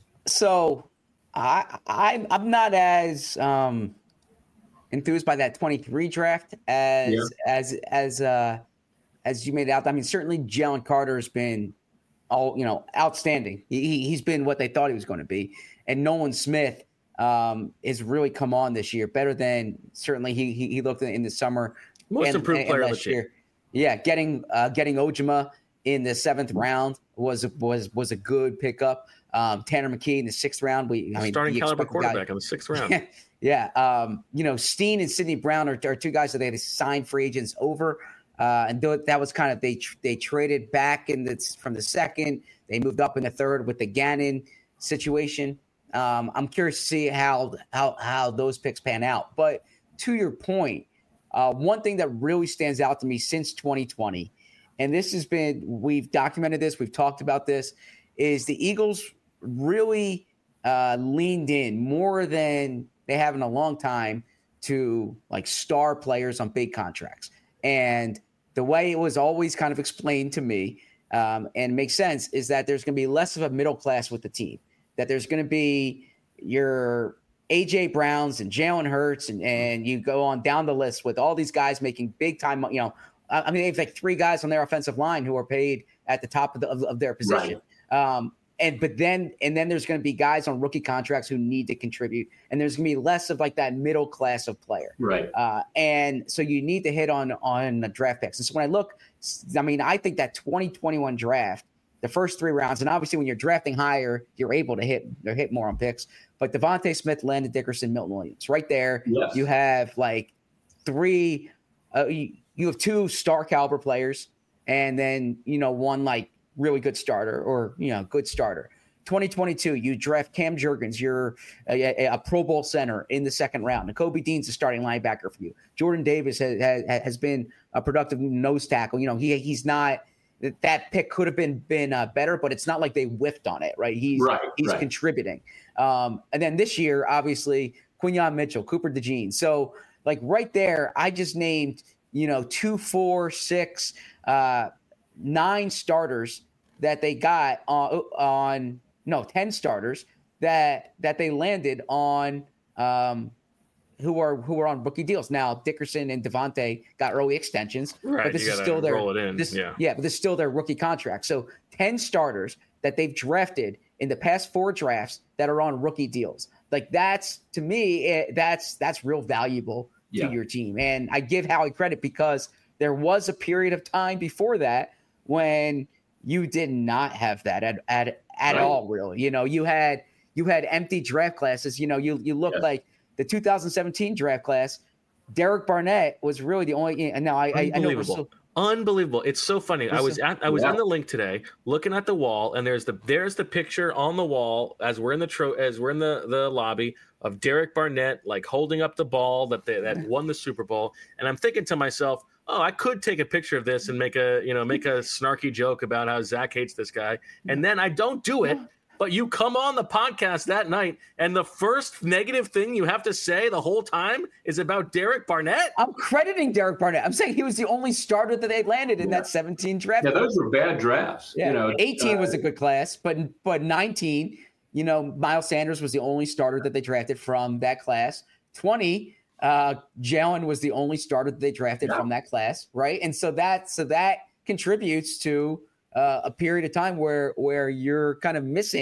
so I, I I'm not as um, enthused by that twenty-three draft as yeah. as as uh, as you made it out. I mean, certainly Jalen Carter has been all you know outstanding. He he's been what they thought he was going to be, and Nolan Smith um, has really come on this year, better than certainly he he, he looked in, in the summer. Most and, improved and, player and last year. Yeah, getting uh, getting Ojima in the seventh round was was was a good pickup. Um, Tanner McKee in the sixth round. We I mean, starting caliber quarterback in the sixth round. yeah, um, you know, Steen and Sidney Brown are, are two guys that they had to sign free agents over, uh, and th- that was kind of they they traded back in the from the second. They moved up in the third with the Gannon situation. Um, I'm curious to see how how how those picks pan out. But to your point, uh, one thing that really stands out to me since twenty twenty. And this has been, we've documented this, we've talked about this, is the Eagles really uh, leaned in more than they have in a long time to like star players on big contracts. And the way it was always kind of explained to me um, and makes sense is that there's going to be less of a middle class with the team, that there's going to be your A J Browns and Jalen Hurts and, and you go on down the list with all these guys making big time, you know, I mean, they have like three guys on their offensive line who are paid at the top of, the, of, of their position. Right. Um, and but then and then there's going to be guys on rookie contracts who need to contribute. And there's going to be less of like that middle class of player. Right. Uh, and so you need to hit on on the draft picks. And so when I look, I mean, I think that twenty twenty-one draft, the first three rounds, and obviously when you're drafting higher, you're able to hit or hit more on picks. But Devontae Smith, Landon Dickerson, Milton Williams, right there. Yes. You have like three. Uh, you, You have two star caliber players and then, you know, one like really good starter or, you know, good starter. twenty twenty-two, you draft Cam Jurgens, you're a, a, a Pro Bowl center in the second round. Nakobe Dean's a starting linebacker for you. Jordan Davis has, has, has been a productive nose tackle. You know, he he's not – that pick could have been been uh, better, but it's not like they whiffed on it, right? He's right, he's right. contributing. Um, and then this year, obviously, Quinyon Mitchell, Cooper DeJean. So, like right there, I just named – you know, two, four, six, uh, nine starters that they got on, on no, ten starters that that they landed on um, who are who are on rookie deals. Now, Dickerson and Devontae got early extensions, right, but this is still their this, yeah. yeah, but this is still their rookie contract. So ten starters that they've drafted in the past four drafts that are on rookie deals. Like that's to me, it, that's that's real valuable to yeah. your team. And I give Howie credit because there was a period of time before that when you did not have that at at, at right. all, really. You know, you had you had empty draft classes. You know, you you look yes. like the two thousand seventeen draft class, Derek Barnett was really the only and now I I, I know we're so, Unbelievable. It's so funny. I was at I was yeah. in the link today looking at the wall and there's the there's the picture on the wall as we're in the tro- as we're in the, the lobby of Derek Barnett like holding up the ball that they, that won the Super Bowl. And I'm thinking to myself, oh, I could take a picture of this and make a, you know, make a snarky joke about how Zach hates this guy. And then I don't do it. But you come on the podcast that night, and the first negative thing you have to say the whole time is about Derek Barnett? I'm crediting Derek Barnett. I'm saying he was the only starter that they landed in yeah. that seventeen draft. Yeah, those were bad drafts. Yeah. You know, eighteen uh, was a good class, but but nineteen, you know, Miles Sanders was the only starter that they drafted from that class. twenty, uh, Jalen was the only starter that they drafted yeah. from that class, right? And so that so that contributes to – Uh, a period of time where where you're kind of missing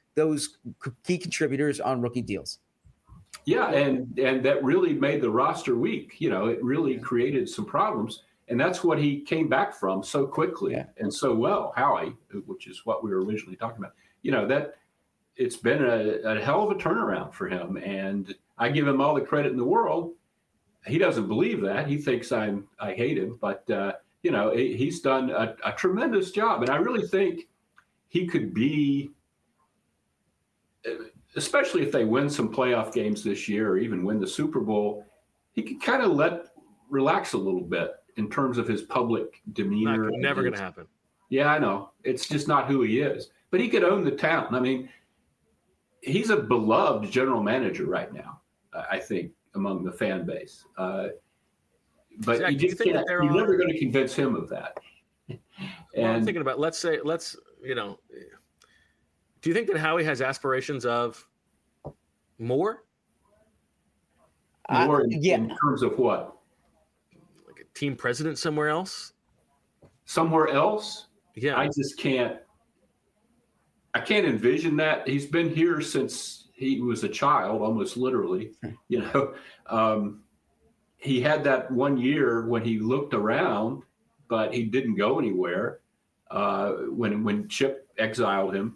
those key contributors on rookie deals. Yeah, and and that really made the roster weak. You know, it really created some problems, and that's what he came back from so quickly yeah. and so well, Howie, which is what we were originally talking about. You know, that it's been a, a hell of a turnaround for him, and I give him all the credit in the world. He doesn't believe that. He thinks I'm I hate him, but uh, you know, he, he's done a, a tremendous job, and I really think he could be. Especially if they win some playoff games this year or even win the Super Bowl, he could kind of let relax a little bit in terms of his public demeanor. Not, never going to happen. Yeah, I know. It's just not who he is. But he could own the town. I mean, he's a beloved general manager right now, I think, among the fan base. Uh, but Zach, you just you can't, you're are... never going to convince him of that. And well, I'm thinking about, let's say, let's, you know, do you think that Howie has aspirations of more? More uh, in, yeah. in terms of what? Like a team president somewhere else? Somewhere else? Yeah. I just can't. I can't envision that. He's been here since he was a child, almost literally. You know, um, he had that one year when he looked around, but he didn't go anywhere uh, when when Chip exiled him.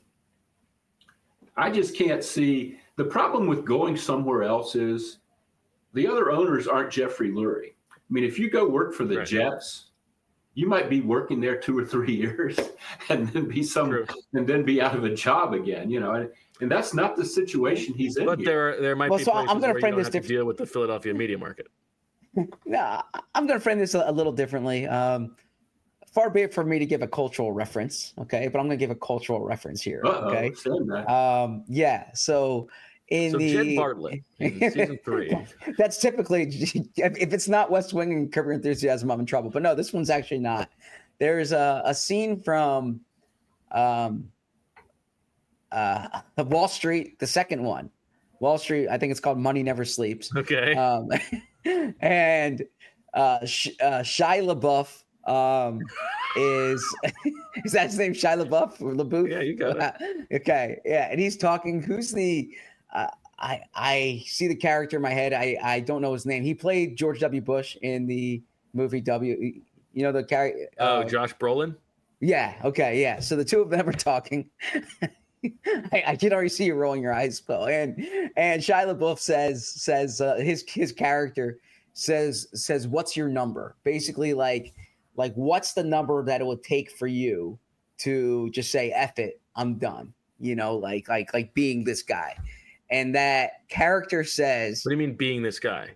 I just can't see. The problem with going somewhere else is the other owners aren't Jeffrey Lurie. I mean, if you go work for the right. Jets, you might be working there two or three years and then be some True. and then be out of a job again, you know, and, and that's not the situation he's in. But here. there there might well, be so places I'm gonna where frame you don't this have to deal with the Philadelphia media market. No, I'm going to frame this a, a little differently. Um, Far be it for me to give a cultural reference, okay? But I'm going to give a cultural reference here, Uh-oh, okay? that. Um, yeah. So in so the Jed Bartlett in season three, that's typically if it's not West Wing and Curb Your Enthusiasm, I'm in trouble. But no, this one's actually not. There's a, a scene from um, uh, Wall Street, the second one, Wall Street. I think it's called Money Never Sleeps. Okay. Um, and uh, Sh- uh, Shia LaBeouf. Um, is is that his name? Shia LaBeouf or LaBeouf? Yeah, you got it. Okay, yeah, and he's talking. Who's the? Uh, I I see the character in my head. I I don't know his name. He played George W. Bush in the movie W. You know the character. Oh, uh, Josh Brolin. Yeah. Okay. Yeah. So the two of them are talking. I, I can already see you rolling your eyes, Phil. And and Shia LaBeouf says says uh, his his character says says what's your number? Basically, like. Like, what's the number that it would take for you to just say, F it, I'm done, you know, like, like, like being this guy. And that character says, what do you mean being this guy?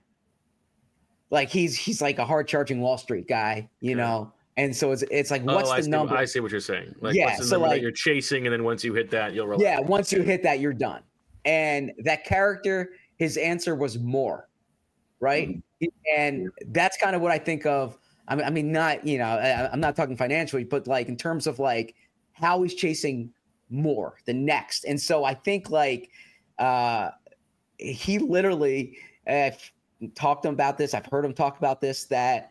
Like, he's, he's like a hard charging Wall Street guy, you okay. know? And so it's, it's like, what's oh, the I see, number? I see what you're saying. Like, yeah. what's the So number like that you're chasing. And then once you hit that, you'll relax. Yeah. Once you hit that, you're done. And that character, his answer was more, right? Mm-hmm. And that's kind of what I think of. I mean, I mean, not, you know, I, I'm not talking financially, but like in terms of like how he's chasing more, the next. And so I think like uh, he literally, I've talked to him about this. I've heard him talk about this, that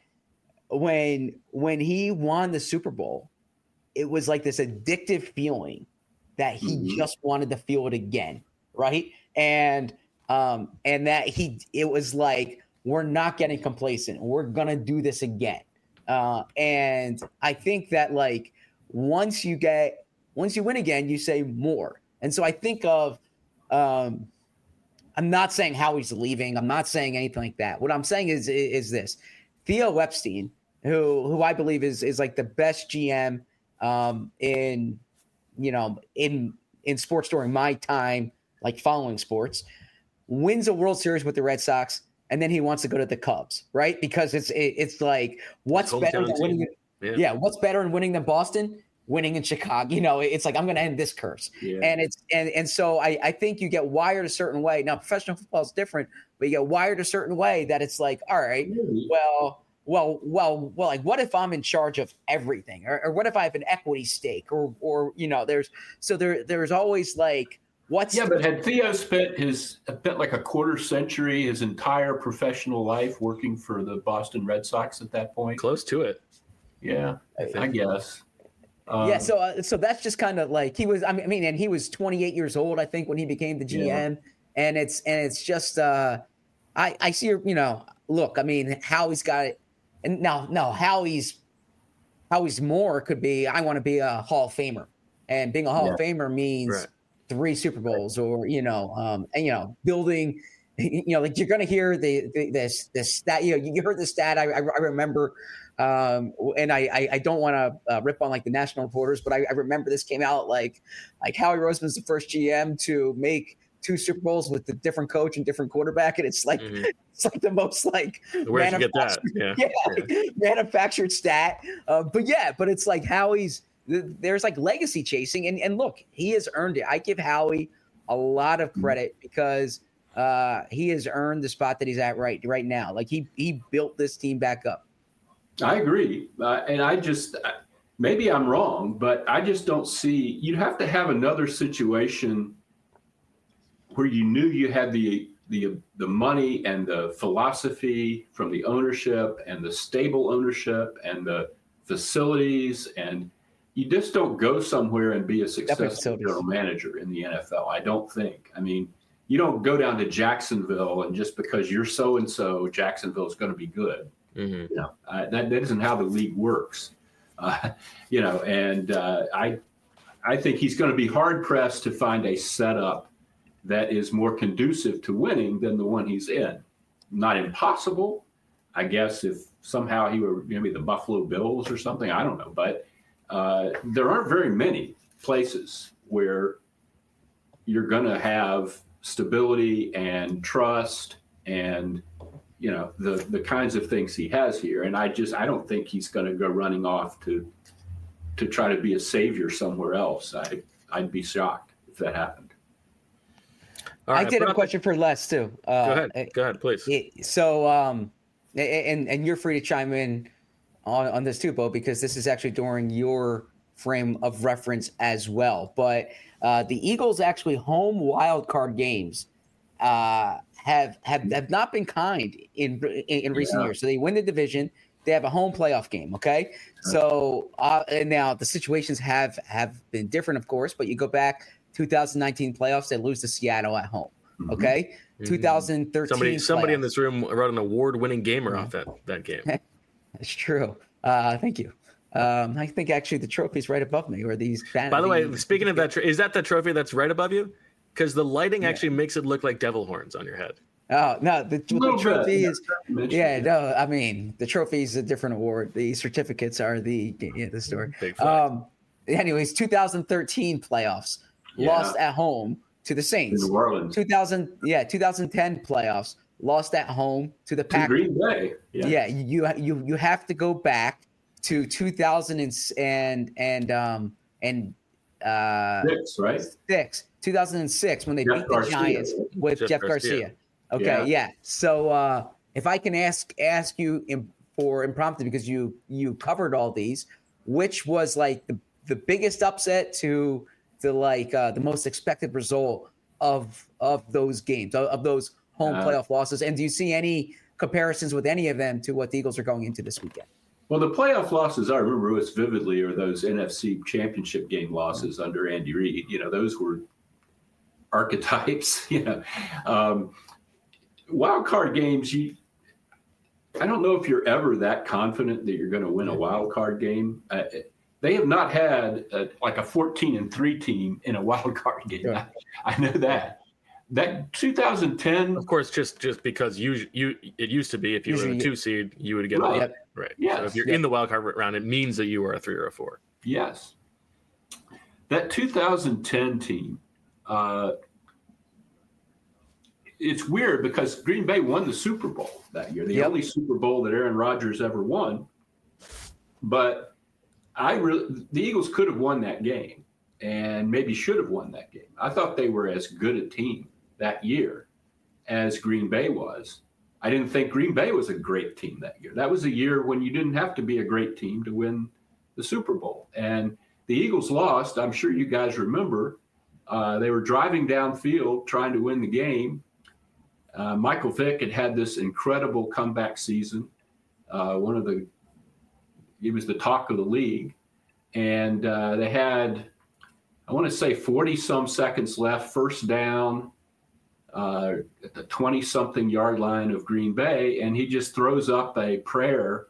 when, when he won the Super Bowl, it was like this addictive feeling that he mm-hmm. just wanted to feel it again. Right. And, um, and that he, it was like, we're not getting complacent. We're going to do this again. Uh, and I think that like once you get once you win again, you say more. And so I think of um, I'm not saying how he's leaving. I'm not saying anything like that. What I'm saying is is this: Theo Epstein, who who I believe is is like the best G M um, in you know in in sports during my time, like following sports, wins a World Series with the Red Sox. And then he wants to go to the Cubs, right? Because it's it, it's like what's better than winning? Yeah. yeah, what's better than winning than Boston? Winning in Chicago. You know, it's like I'm going to end this curse. Yeah. And it's and and so I I think you get wired a certain way. Now professional football is different, but you get wired a certain way that it's like, all right, well, well, well, well, like what if I'm in charge of everything, or, or what if I have an equity stake, or or you know, there's so there there's always like. What's yeah, but had Theo spent his spent like a quarter century, his entire professional life working for the Boston Red Sox at that point? Close to it. Yeah, I, I guess. Um, yeah, so uh, so that's just kind of like he was. I mean, I mean, and he was twenty-eight years old, I think, when he became the G M. Yeah. And it's and it's just, uh, I I see, you know, look, I mean, Howie's got it, and now no Howie's Howie's more could be. I want to be a Hall of Famer, and being a Hall Yeah. of Famer means Right. three Super Bowls, or you know, um, and you know, building. You know, like you're going to hear the, the this this stat. You know, you heard the stat. I I, I remember. Um, and I, I, I don't want to uh, rip on like the national reporters, but I, I remember this came out like, like Howie Roseman's the first G M to make two Super Bowls with a different coach and different quarterback. And it's like, mm-hmm. it's like the most like, where'd you get that? Yeah. yeah, yeah. Like, manufactured stat. Uh, but yeah, but it's like Howie's, there's like legacy chasing. And, and look, he has earned it. I give Howie a lot of credit because uh, he has earned the spot that he's at right, right now. Like he, he built this team back up. I agree. Uh, and I just, maybe I'm wrong, but I just don't see, you'd have to have another situation where you knew you had the, the, the money and the philosophy from the ownership and the stable ownership and the facilities. And you just don't go somewhere and be a successful general manager in the N F L. I don't think. I mean, you don't go down to Jacksonville and just because you're so-and-so, Jacksonville is going to be good. Mm-hmm. You know, uh, that, that isn't how the league works, uh, you know, and uh, I, I think he's going to be hard pressed to find a setup that is more conducive to winning than the one he's in. Not impossible, I guess, if somehow he were maybe the Buffalo Bills or something, I don't know, but uh, there aren't very many places where you're going to have stability and trust and you know, the, the kinds of things he has here. And I just, I don't think he's going to go running off to, to try to be a savior somewhere else. I, I'd be shocked if that happened. All right, I did have a question the... for Les too. Uh, go ahead. Go ahead, please. So, um, and, and you're free to chime in on, on this too, Bo, because this is actually during your frame of reference as well. But uh, the Eagles actually home wild card games, uh, have have have not been kind in in, in recent yeah. years. So they win the division. They have a home playoff game. Okay, so uh, and now the situations have have been different, of course. But you go back two thousand nineteen playoffs, they lose to Seattle at home. Okay, mm-hmm. twenty thirteen. Somebody somebody playoffs. in this room wrote an award-winning gamer mm-hmm. off that that game. That's true. Uh, thank you. Um, I think actually the trophy's right above me, or these. By the way, speaking of that, is that the trophy that's right above you? Because the lighting yeah. actually makes it look like devil horns on your head. Oh, no, the, the trophy is, yeah, no, I mean, the trophy is a different award. The certificates are the, yeah, the story. Um, anyways, two thousand thirteen playoffs, yeah. lost at home to the Saints. In New Orleans. two thousand, yeah, two thousand ten playoffs, lost at home to the Packers. Green Bay. Yeah. yeah, you you you have to go back to two thousand and and and um and uh six, right? Six. two thousand six when they Jeff beat the Garcia. Giants with Jeff, Jeff Garcia. Garcia. Okay, yeah. yeah. So uh, if I can ask ask you in, for impromptu, because you you covered all these, which was like the, the biggest upset to the like uh, the most expected result of of those games, of, of those home uh, playoff losses, and do you see any comparisons with any of them to what the Eagles are going into this weekend? Well, the playoff losses I remember most vividly are those N F C Championship game losses mm-hmm. under Andy Reid. You know, those were archetypes. You know. Um, Wild card games, you, I don't know if you're ever that confident that you're going to win a wild card game. Uh, they have not had a, like a fourteen and three team in a wild card game. Yeah. I, I know that. That two thousand ten, of course, just just because you you it used to be if you were a two seed, you would get right. a right. Yes. So if you're yep. in the wild card round, it means that you are a three or a four. Yes. That two thousand ten team. Uh, It's weird because Green Bay won the Super Bowl that year, the yep. only Super Bowl that Aaron Rodgers ever won. But I really, the Eagles could have won that game and maybe should have won that game. I thought they were as good a team that year as Green Bay was. I didn't think Green Bay was a great team that year. That was a year when you didn't have to be a great team to win the Super Bowl. And the Eagles lost. I'm sure you guys remember. Uh, they were driving downfield trying to win the game. Uh, Michael Vick had had this incredible comeback season. Uh, one of the, he was the talk of the league. and uh, they had, I want to say forty some seconds left, first down uh, at the twenty something yard line of Green Bay. And he just throws up a prayer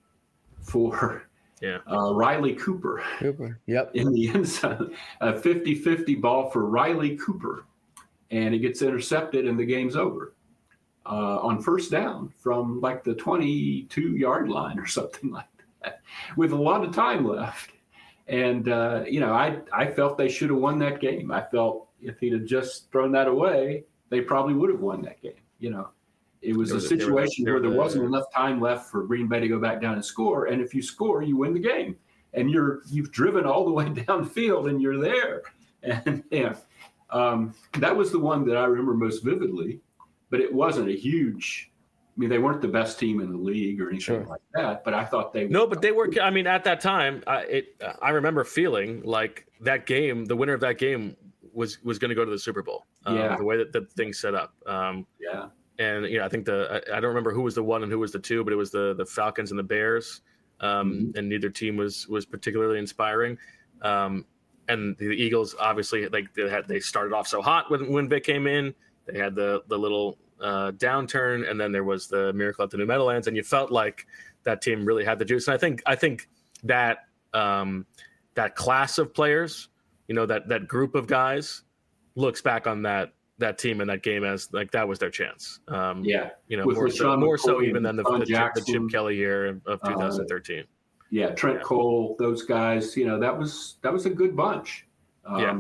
for yeah. uh, Riley Cooper. Cooper. Yep. In the end zone, a fifty-fifty ball for Riley Cooper. And it gets intercepted and the game's over uh, on first down from like the twenty-two yard line or something like that with a lot of time left. And, uh, you know, I, I felt they should have won that game. I felt if he'd have just thrown that away, they probably would have won that game. You know, it was, was a situation where there wasn't enough time left for Green Bay to go back down and score. And if you score, you win the game. And you're, you've driven all the way downfield and you're there. And, yeah, um, that was the one that I remember most vividly. But it wasn't a huge – I mean, they weren't the best team in the league or anything sure. like that, but I thought they were. No, but they were. I mean, at that time, I, it, I remember feeling like that game, the winner of that game was was going to go to the Super Bowl. Um, yeah. The way that the thing set up. Um, yeah. And, you know, I think the – I don't remember who was the one and who was the two, but it was the the Falcons and the Bears, um, mm-hmm. and neither team was was particularly inspiring. Um, and the Eagles, obviously, like they had they started off so hot when, when Vic came in. They had the the little – Uh, downturn, and then there was the miracle at the New Meadowlands, and you felt like that team really had the juice. And I think I think that um, that class of players, you know, that that group of guys, looks back on that that team and that game as like that was their chance. Um, yeah, you know, With more so, more so even than the, the, Chip, the Chip Kelly year of twenty thirteen. Uh, yeah, Trent yeah. Cole, those guys. You know, that was that was a good bunch. Um, yeah.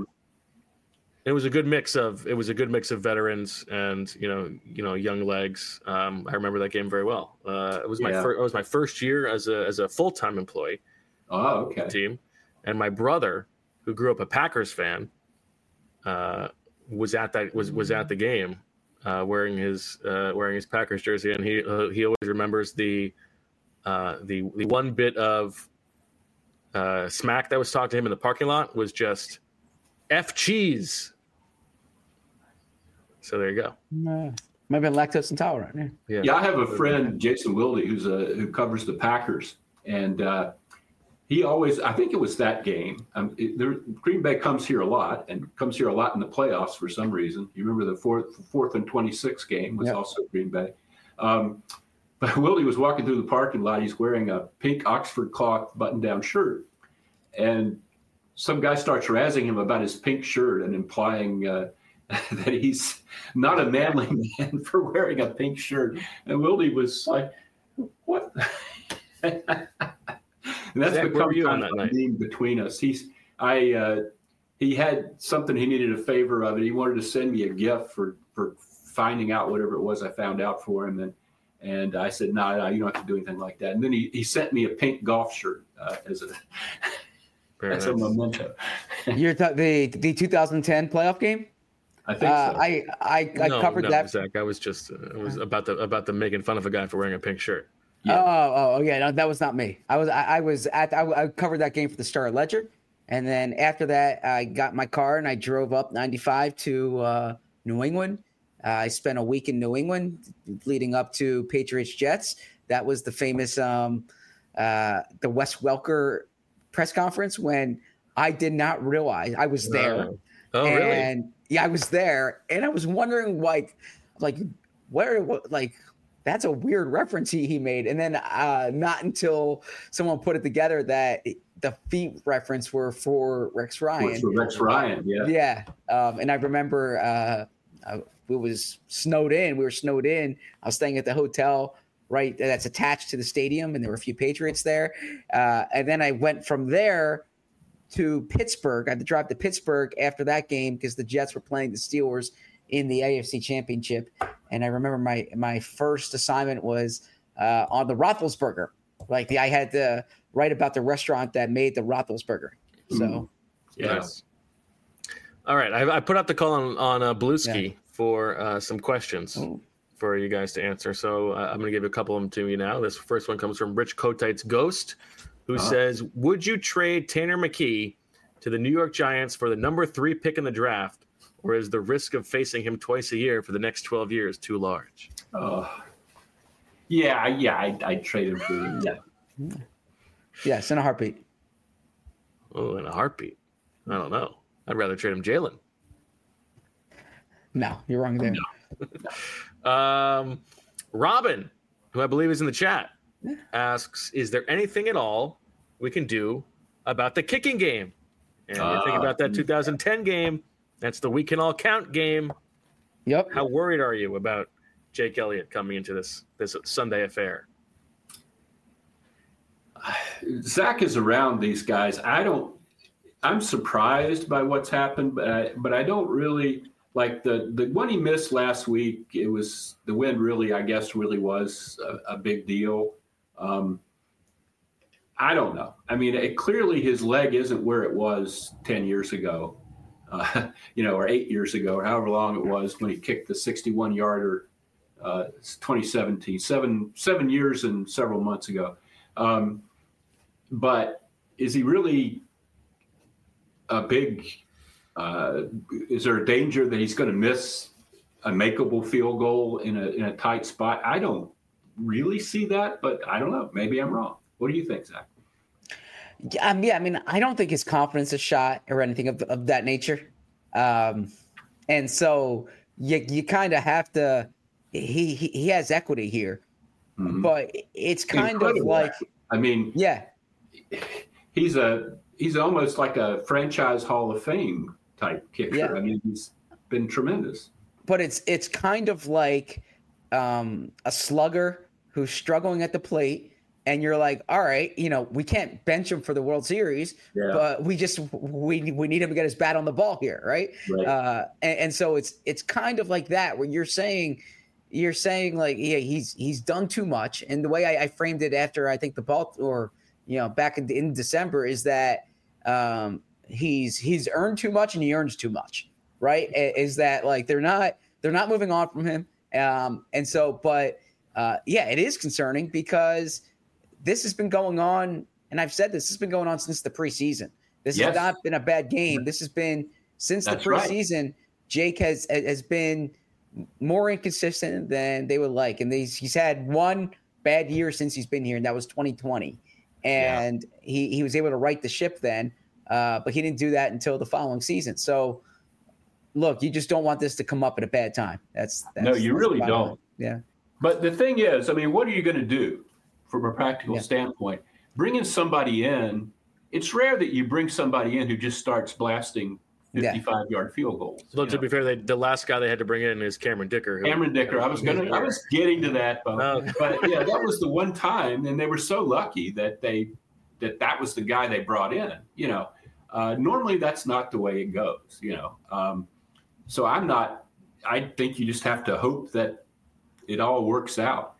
It was a good mix of it was a good mix of veterans and you know you know young legs. Um, I remember that game very well. Uh, it was my yeah. first. It was my first year as a as a full time employee. Oh, okay. Team, and my brother, who grew up a Packers fan, uh, was at that was was at the game, uh, wearing his uh, wearing his Packers jersey, and he uh, he always remembers the uh, the the one bit of uh, smack that was talked to him in the parking lot was just F cheese. So there you go. Uh, maybe lactose intolerant. Yeah. yeah, yeah. I have a friend, Jason Wilde, who's a who covers the Packers, and uh, he always. I think it was that game. Um, it, there, Green Bay comes here a lot, and comes here a lot in the playoffs for some reason. You remember the fourth fourth and twenty-six game was yep. also Green Bay. Um, but Wilde was walking through the parking lot. He's wearing a pink Oxford cloth button-down shirt, and some guy starts razzing him about his pink shirt and implying. Uh, that he's not a manly man for wearing a pink shirt. And Wilde was like, what? And that's Zach, become you kind on of that a meme between us. He's, I, uh, he had something he needed a favor of, and he wanted to send me a gift for, for finding out whatever it was I found out for him. And, and I said, no, no, you don't have to do anything like that. And then he, he sent me a pink golf shirt uh, as a, as a memento. You're th- the, the two thousand ten playoff game? I think uh, so. I I, I no, covered no, that. Zach, I was just uh, it was about the about the making fun of a guy for wearing a pink shirt. Yeah. Oh, oh, yeah, no, that was not me. I was I, I was at I, I covered that game for the Star Ledger, and then after that, I got my car and I drove up ninety-five to uh, New England. Uh, I spent a week in New England, leading up to Patriots Jets. That was the famous um, uh, the Wes Welker press conference when I did not realize I was there. Oh, oh really? And yeah, I was there, and I was wondering, like, like where, what, like, that's a weird reference he, he made. And then uh, not until someone put it together that it, the feet reference were for Rex Ryan. For Rex Ryan, yeah. Yeah, um, and I remember uh, uh, it was snowed in. We were snowed in. I was staying at the hotel right that's attached to the stadium, and there were a few Patriots there. Uh, and then I went from there to Pittsburgh. I had to drive to Pittsburgh after that game because the Jets were playing the Steelers in the A F C Championship. And I remember my my first assignment was uh, on the Roethlisberger. Like the, I had to write about the restaurant that made the Roethlisberger. So, mm. yes. All right, I, I put out the call on on uh, Bluesky yeah. for uh, some questions Ooh. for you guys to answer. So uh, I'm going to give a couple of them to you now. This first one comes from Rich Kotite's Ghost, who uh-huh. says, would you trade Tanner McKee to the New York Giants for the number three pick in the draft, or is the risk of facing him twice a year for the next twelve years too large? Uh, yeah, yeah, I, I'd trade him for yeah. Yes, in a heartbeat. Oh, in a heartbeat. I don't know. I'd rather trade him Jalen. No, you're wrong there. No. um, Robin, who I believe is in the chat, asks, is there anything at all we can do about the kicking game? And uh, you think about that two thousand ten game, that's the we can all count game. Yep. How worried are you about Jake Elliott coming into this this Sunday affair? Zach is around these guys. I don't I'm surprised by what's happened, but I, but I don't really like the, the one he missed last week. It was the win really, I guess, really was a, a big deal. Um, I don't know. I mean, it, clearly his leg isn't where it was ten years ago, uh, you know, or eight years ago, or however long it was when he kicked the sixty-one yarder, uh, twenty seventeen, seven, seven years and several months ago. Um, but is he really a big, uh, is there a danger that he's going to miss a makeable field goal in a in a tight spot? I don't really see that, but I don't know. Maybe I'm wrong. What do you think, Zach? Um, yeah, I mean, I don't think his confidence is shot or anything of, of that nature. Um, and so you you kind of have to, he, he he has equity here, mm-hmm. but it's kind Incredible. of like, I mean, yeah, he's a, he's almost like a franchise Hall of Fame type kicker. Yeah. I mean, he's been tremendous. But it's it's kind of like um, a slugger who's struggling at the plate, and you're like, all right, you know, we can't bench him for the World Series, yeah. but we just we we need him to get his bat on the ball here, right? right. Uh, and, and so it's it's kind of like that where you're saying you're saying like, yeah, he's he's done too much, and the way I, I framed it after I think the ball or you know back in, in December is that um, he's he's earned too much and he earns too much, right? Is that like they're not they're not moving on from him, um, and so but uh, yeah, it is concerning because this has been going on, and I've said this, this has been going on since the preseason. This yes. has not been a bad game. This has been since That's the preseason. Right. Jake has has been more inconsistent than they would like, and he's he's had one bad year since he's been here, and that was twenty twenty. And yeah. he he was able to right the ship then, uh, but he didn't do that until the following season. So, look, you just don't want this to come up at a bad time. That's, that's no, you that's really don't. Line. Yeah. But the thing is, I mean, what are you going to do? From a practical yeah. standpoint, bringing somebody in, it's rare that you bring somebody in who just starts blasting fifty-five-yard yeah. field goals. So to know? be fair, they, the last guy they had to bring in is Cameron Dicker. Who, Cameron Dicker. I was gonna, I was getting to that, but, oh. but yeah, that was the one time, and they were so lucky that they that that was the guy they brought in. You know, uh, normally that's not the way it goes. You know, um, so I'm not. I think you just have to hope that it all works out.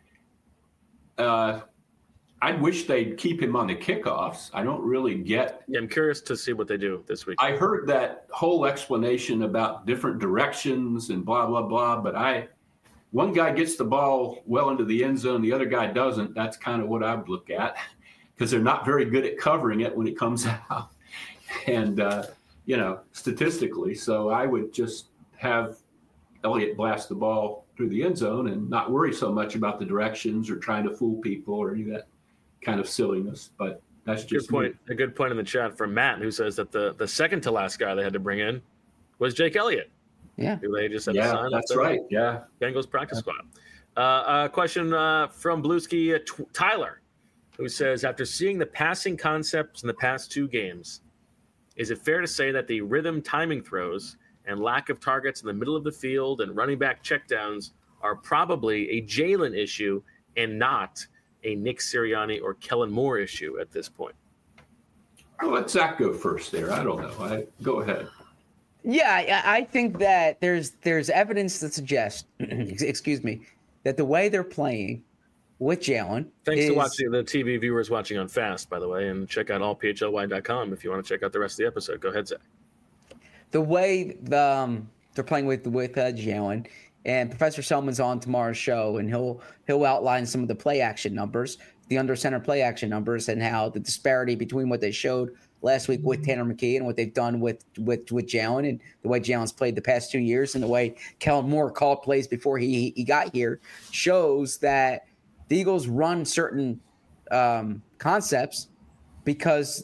Uh, I wish they'd keep him on the kickoffs. I don't really get. Yeah, I'm curious to see what they do this week. I heard that whole explanation about different directions and blah, blah, blah. But I, one guy gets the ball well into the end zone, the other guy doesn't. That's kind of what I would look at because they're not very good at covering it when it comes out. And, uh, you know, statistically. So I would just have Elliott blast the ball through the end zone and not worry so much about the directions or trying to fool people or any of that kind of silliness. But that's just good point. Me. A good point in the chat from Matt, who says that the, the second to last guy they had to bring in was Jake Elliott. Yeah. Who they just had yeah, to sign that's right. Yeah. Bengals practice squad. Uh, a question uh, from Bluesky uh, T- Tyler, who says, after seeing the passing concepts in the past two games, is it fair to say that the rhythm timing throws and lack of targets in the middle of the field and running back checkdowns are probably a Jalen issue and not a Nick Sirianni or Kellen Moore issue at this point? I'll let Zach go first there. I don't know. I, go ahead. Yeah, I, I think that there's there's evidence that suggests, excuse me, that the way they're playing with Jalen. Thanks is, to watching the T V viewers watching on Fast, by the way, and check out all p h l y dot com if you want to check out the rest of the episode. Go ahead, Zach. The way the, um, they're playing with with uh, Jalen, and Professor Selman's on tomorrow's show, and he'll he'll outline some of the play action numbers, the under center play action numbers, and how the disparity between what they showed last week with Tanner McKee and what they've done with with with Jalen, and the way Jalen's played the past two years, and the way Kellen Moore called plays before he he got here, shows that the Eagles run certain um, concepts because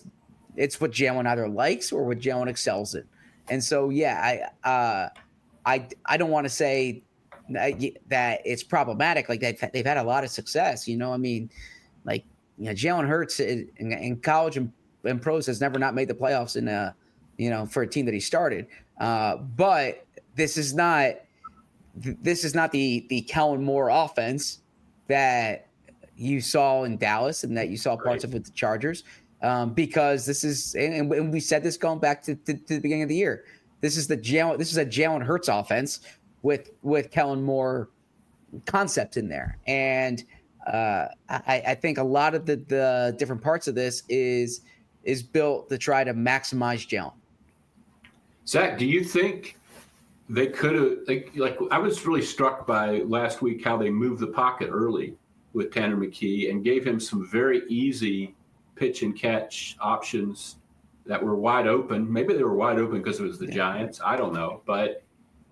it's what Jalen either likes or what Jalen excels in. And so, yeah, I uh, I I don't want to say that it's problematic. Like they've they've had a lot of success. You know, I mean, like you know, Jalen Hurts in, in college and, and pros has never not made the playoffs in a you know for a team that he started. Uh, but this is not this is not the the Kellen Moore offense that you saw in Dallas and that you saw parts right. of with the Chargers. Um, because this is, and, and we said this going back to, to, to the beginning of the year. This is the Jalen, this is a Jalen Hurts offense with with Kellen Moore concept in there, and uh, I, I think a lot of the, the different parts of this is is built to try to maximize Jalen. Zach, do you think they could have like like I was really struck by last week how they moved the pocket early with Tanner McKee and gave him some very easy pitch and catch options that were wide open. Maybe they were wide open because it was the yeah. Giants. I don't know. But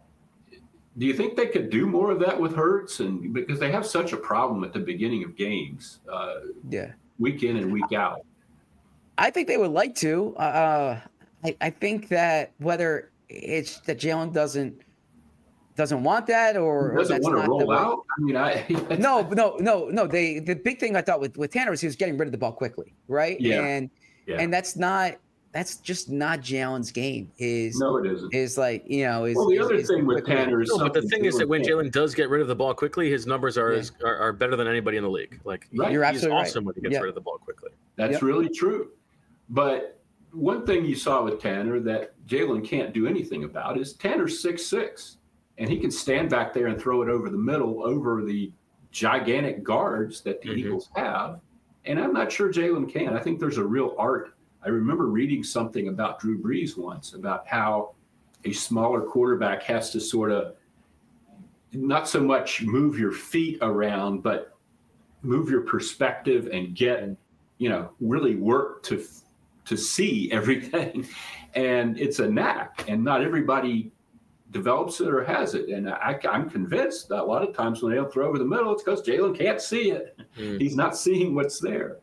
do you think they could do more of that with Hurts? And because they have such a problem at the beginning of games, uh, yeah, week in and week out. I think they would like to. Uh, I, I think that whether it's that Jalen doesn't doesn't want that or he doesn't or want to roll out. I mean, I no, no, no, no. They the big thing I thought with, with Tanner was he was getting rid of the ball quickly, right? Yeah. And yeah. and that's not that's just not Jalen's game. Is no, it isn't. Is like you know. Is, well, the is, other is thing with Tanner is, no, but the thing is that when Tanner. Jalen does get rid of the ball quickly, his numbers are yeah. as, are, are better than anybody in the league. Like right. You're he's absolutely awesome right. when he gets yep. rid of the ball quickly. That's yep. really true. But one thing you saw with Tanner that Jalen can't do anything about is Tanner's six six. And he can stand back there and throw it over the middle, over the gigantic guards that the mm-hmm. Eagles have. And I'm not sure Jalen can. I think there's a real art. I remember reading something about Drew Brees once about how a smaller quarterback has to sort of not so much move your feet around, but move your perspective and get, you know, really work to to see everything. And it's a knack. And not everybody develops it or has it. And I, I'm convinced that a lot of times when they'll throw over the middle, it's because Jalen can't see it. Mm. He's not seeing what's there.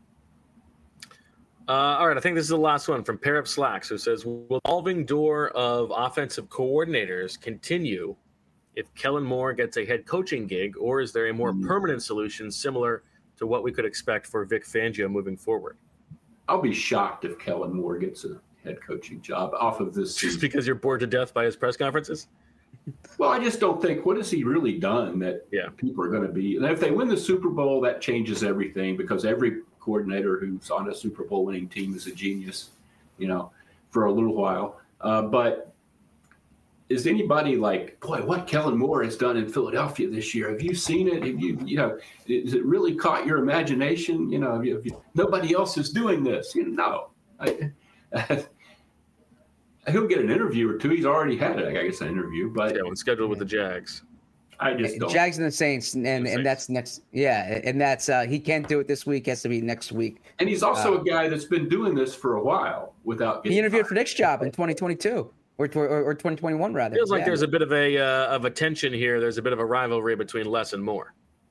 Uh, all right, I think this is the last one from Pair Up Slacks, who says, will the evolving door of offensive coordinators continue if Kellen Moore gets a head coaching gig, or is there a more mm. permanent solution similar to what we could expect for Vic Fangio moving forward? I'll be shocked if Kellen Moore gets a head coaching job off of this season. Just because you're bored to death by his press conferences? Well, I just don't think, what has he really done that yeah. people are going to be, and if they win the Super Bowl, that changes everything because every coordinator who's on a Super Bowl winning team is a genius, you know, for a little while. Uh, but is anybody like, boy, what Kellen Moore has done in Philadelphia this year? Have you seen it? Have you, you know, has it really caught your imagination? You know, have you, have you, nobody else is doing this. You know, no. I, he'll get an interview or two. He's already had it, I guess, an interview. But yeah, when scheduled with the Jags. I just don't. Jags and the Saints, and, and, and that's next. Yeah, and that's uh, he can't do it this week. It has to be next week. And he's also uh, a guy that's been doing this for a while without getting. He interviewed fired. for Nick's job in twenty twenty-two or or, or twenty twenty-one rather. Feels like yeah. there's a bit of a uh, of a tension here. There's a bit of a rivalry between Les and Moore.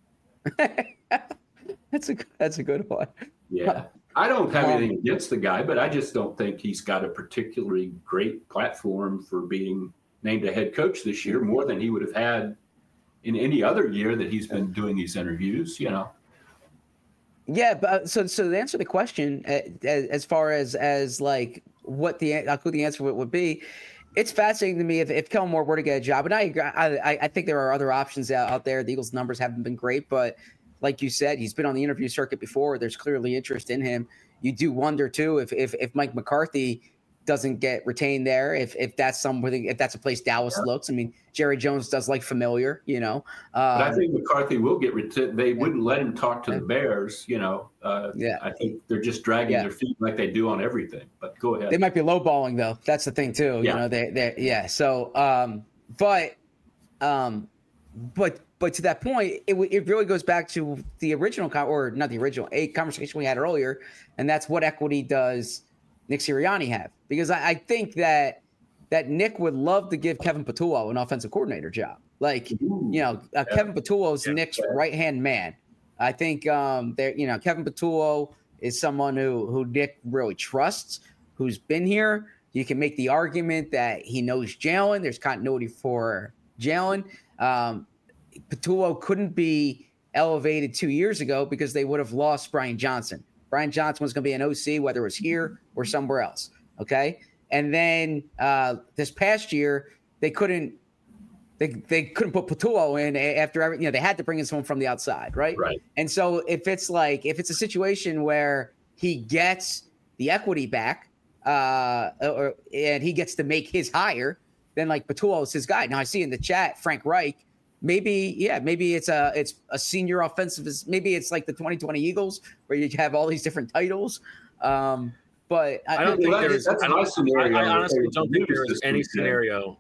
that's a that's a good one. Yeah. I don't have anything against the guy, but I just don't think he's got a particularly great platform for being named a head coach this year, more than he would have had in any other year that he's been doing these interviews, you know. Yeah, but so so to answer the question, uh, as far as as like what the uh, who the answer would, would be, it's fascinating to me if, if Kellen Moore were to get a job, and I I I think there are other options out, out there. The Eagles' numbers haven't been great, but like you said, he's been on the interview circuit before. There's clearly interest in him. You do wonder too if if, if Mike McCarthy doesn't get retained there, if if that's something, if that's a place Dallas yeah. looks. I mean, Jerry Jones does like familiar, you know. Um, but I think McCarthy will get retained. They yeah. wouldn't let him talk to yeah. the Bears, you know. Uh, yeah, I think they're just dragging yeah. their feet like they do on everything. But go ahead. They might be lowballing though. That's the thing too. Yeah. You know, they they yeah. So, um, but, um, but. But to that point, it it really goes back to the original, or not the original, a conversation we had earlier, and that's what equity does Nick Sirianni have? Because I, I think that that Nick would love to give Kevin Patullo an offensive coordinator job. Like, you know, uh, yeah. Kevin Patullo is yeah. Nick's yeah. right-hand man. I think um, there, you know, Kevin Patullo is someone who who Nick really trusts, who's been here. You can make the argument that he knows Jalen. There's continuity for Jalen. Um, Patullo couldn't be elevated two years ago because they would have lost Brian Johnson. Brian Johnson was going to be an O C, whether it was here or somewhere else. Okay. And then uh, this past year, they couldn't they they couldn't put Patullo in after every, you know, they had to bring in someone from the outside. Right. Right. And so if it's like if it's a situation where he gets the equity back, uh, or and he gets to make his hire, then like Patullo is his guy. Now I see in the chat Frank Reich. Maybe, yeah, maybe it's a it's a senior offensive. Maybe it's like the twenty twenty Eagles where you have all these different titles. Um, but I, I don't think there's. That's I, my don't, scenario. I, I honestly don't think there is any weekend. scenario.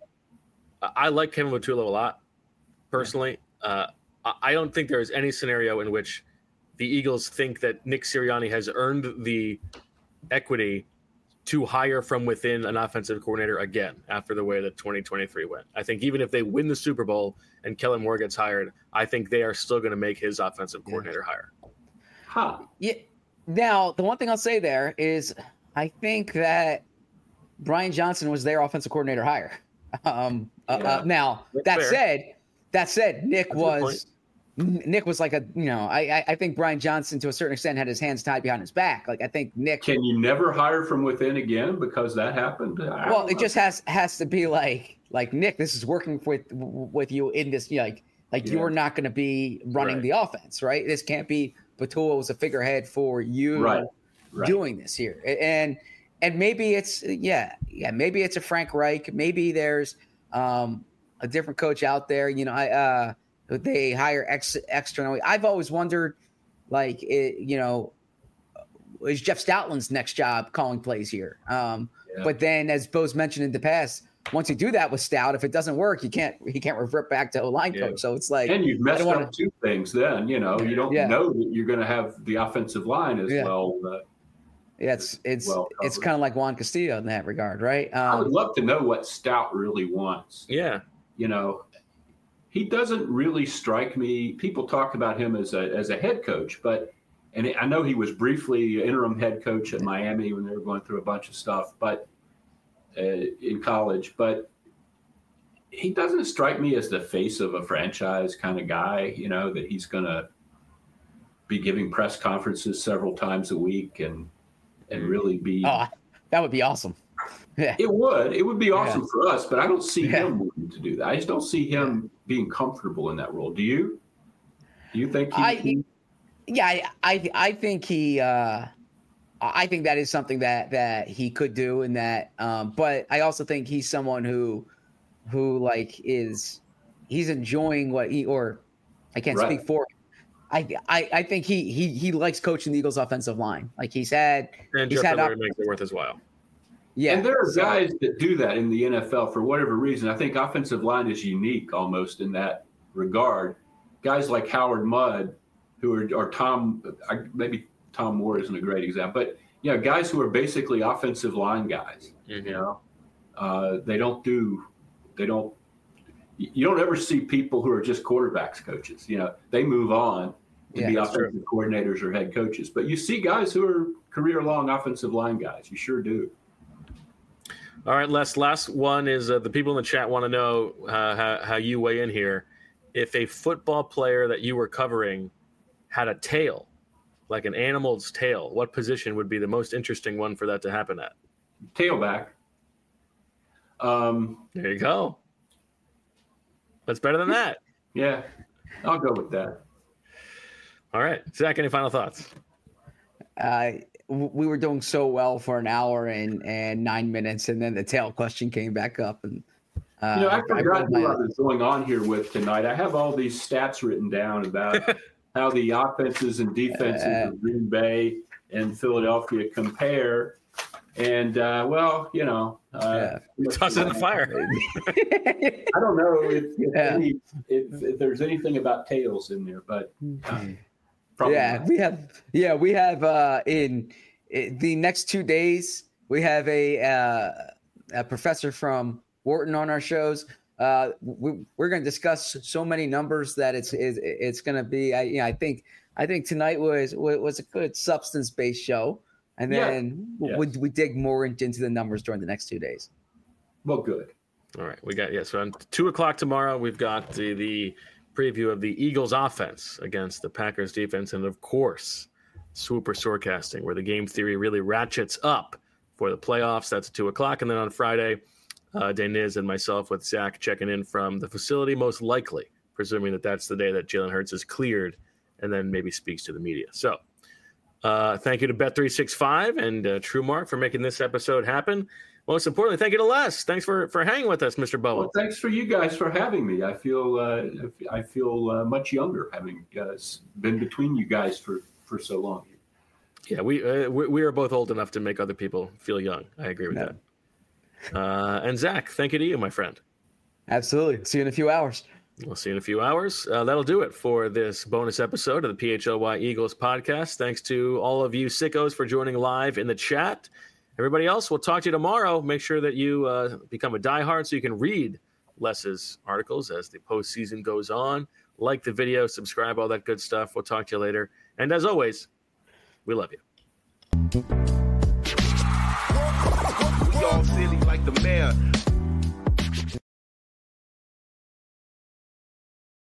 I like Kevin Patullo a lot, personally. Uh, I don't think there is any scenario in which the Eagles think that Nick Sirianni has earned the equity to hire from within an offensive coordinator again after the way that twenty twenty-three went. I think even if they win the Super Bowl and Kellen Moore gets hired, I think they are still going to make his offensive coordinator hire. Huh. Yeah. Now, the one thing I'll say there is I think that Brian Johnson was their offensive coordinator hire. Um, yeah. uh, uh, now, That's that fair. said, that said, Nick That's was Nick was like a, you know, I I think Brian Johnson to a certain extent had his hands tied behind his back. Like I think Nick. Can you never hire from within again because that happened? I well, it know. just has has to be like like Nick. This is working with with you in this. You know, like like yeah. you're not going to be running right. the offense, right? This can't be Patullo as a figurehead for you right. Right. doing this here, and and maybe it's yeah yeah maybe it's a Frank Reich. Maybe there's um, a different coach out there. You know, I. Uh, They hire ex- externally. I've always wondered, like, it, you know, is Jeff Stoutland's next job calling plays here? Um, yeah. But then, as Bo's mentioned in the past, once you do that with Stout, if it doesn't work, you can't he can't revert back to O-line yeah. coach. So it's like, and you've messed wanna, up two things. Then you know you don't yeah. know that you're going to have the offensive line as yeah. well. Uh, yeah, it's it's well it's kind of like Juan Castillo in that regard, right? Um, I would love to know what Stout really wants. Yeah, you know. He doesn't really strike me. People talk about him as a as a head coach, but and I know he was briefly interim head coach at Miami when they were going through a bunch of stuff, but uh, in college. But he doesn't strike me as the face of a franchise kind of guy. You know that he's going to be giving press conferences several times a week and and really be. Oh, that would be awesome. Yeah. It would. It would be awesome yeah. for us, but I don't see yeah. him wanting to do that. I just don't see him being comfortable in that role. Do you? Do you think he? I, he... Yeah, I, I, I think he. Uh, I think that is something that that he could do, and that. Um, but I also think he's someone who, who like is, he's enjoying what he or, I can't right. speak for. I, I I think he he he likes coaching the Eagles' offensive line. Like he's had. And he's Jeff had op- makes it worth his while. Yeah, and there are so, guys that do that in the N F L for whatever reason. I think offensive line is unique almost in that regard. Guys like Howard Mudd, who are, are Tom, maybe Tom Moore isn't a great example, but you know, guys who are basically offensive line guys. Mm-hmm. You know, uh, they don't do, they don't. You don't ever see people who are just quarterbacks coaches. You know, they move on to yeah, be offensive true. coordinators or head coaches. But you see guys who are career-long offensive line guys. You sure do. All right, Les, last one is uh, the people in the chat want to know uh, how, how you weigh in here. If a football player that you were covering had a tail, like an animal's tail, what position would be the most interesting one for that to happen at? Tailback. Um, there you go. That's better than that. Yeah, I'll go with that. All right. Zach, any final thoughts? Uh, we were doing so well for an hour and, and nine minutes, and then the tail question came back up. And uh, you know, I forgot who I was going on here with tonight. I have all these stats written down about how the offenses and defenses uh, of Green Bay and Philadelphia compare. And, uh, well, you know. Uh, yeah. Toss it in the fire. I don't know if, if, yeah. any, if, if there's anything about tails in there, but uh, probably yeah, not. we have. Yeah, we have uh, in, in the next two days, we have a, uh, a professor from Wharton on our shows. Uh, we, we're going to discuss so many numbers that it's it's, it's going to be. I, you know, I think I think tonight was was a good substance-based show, and then yeah. we, yes. we dig more into the numbers during the next two days. Well, good. All right, we got yeah. So on two o'clock tomorrow, we've got the, the preview of the Eagles' offense against the Packers' defense, and of course, Swooper Storecasting, where the game theory really ratchets up for the playoffs. That's at two o'clock, and then on Friday, uh, Deniz and myself with Zach checking in from the facility, most likely, presuming that that's the day that Jalen Hurts is cleared, and then maybe speaks to the media. So, uh, thank you to Bet three sixty-five and uh, TrueMark for making this episode happen. Most importantly, thank you to Les. Thanks for, for hanging with us, Mister Bowen. Well, thanks for you guys for having me. I feel uh, I feel uh, much younger having uh, been between you guys for, for so long. Yeah, we, uh, we we are both old enough to make other people feel young. I agree with no. that. Uh, and Zach, thank you to you, my friend. Absolutely. See you in a few hours. We'll see you in a few hours. Uh, that'll do it for this bonus episode of the P H L Y Eagles podcast. Thanks to all of you sickos for joining live in the chat. Everybody else, we'll talk to you tomorrow. Make sure that you uh, become a diehard so you can read Les's articles as the postseason goes on. Like the video, subscribe, all that good stuff. We'll talk to you later. And as always, we love you. We all silly like the mayor.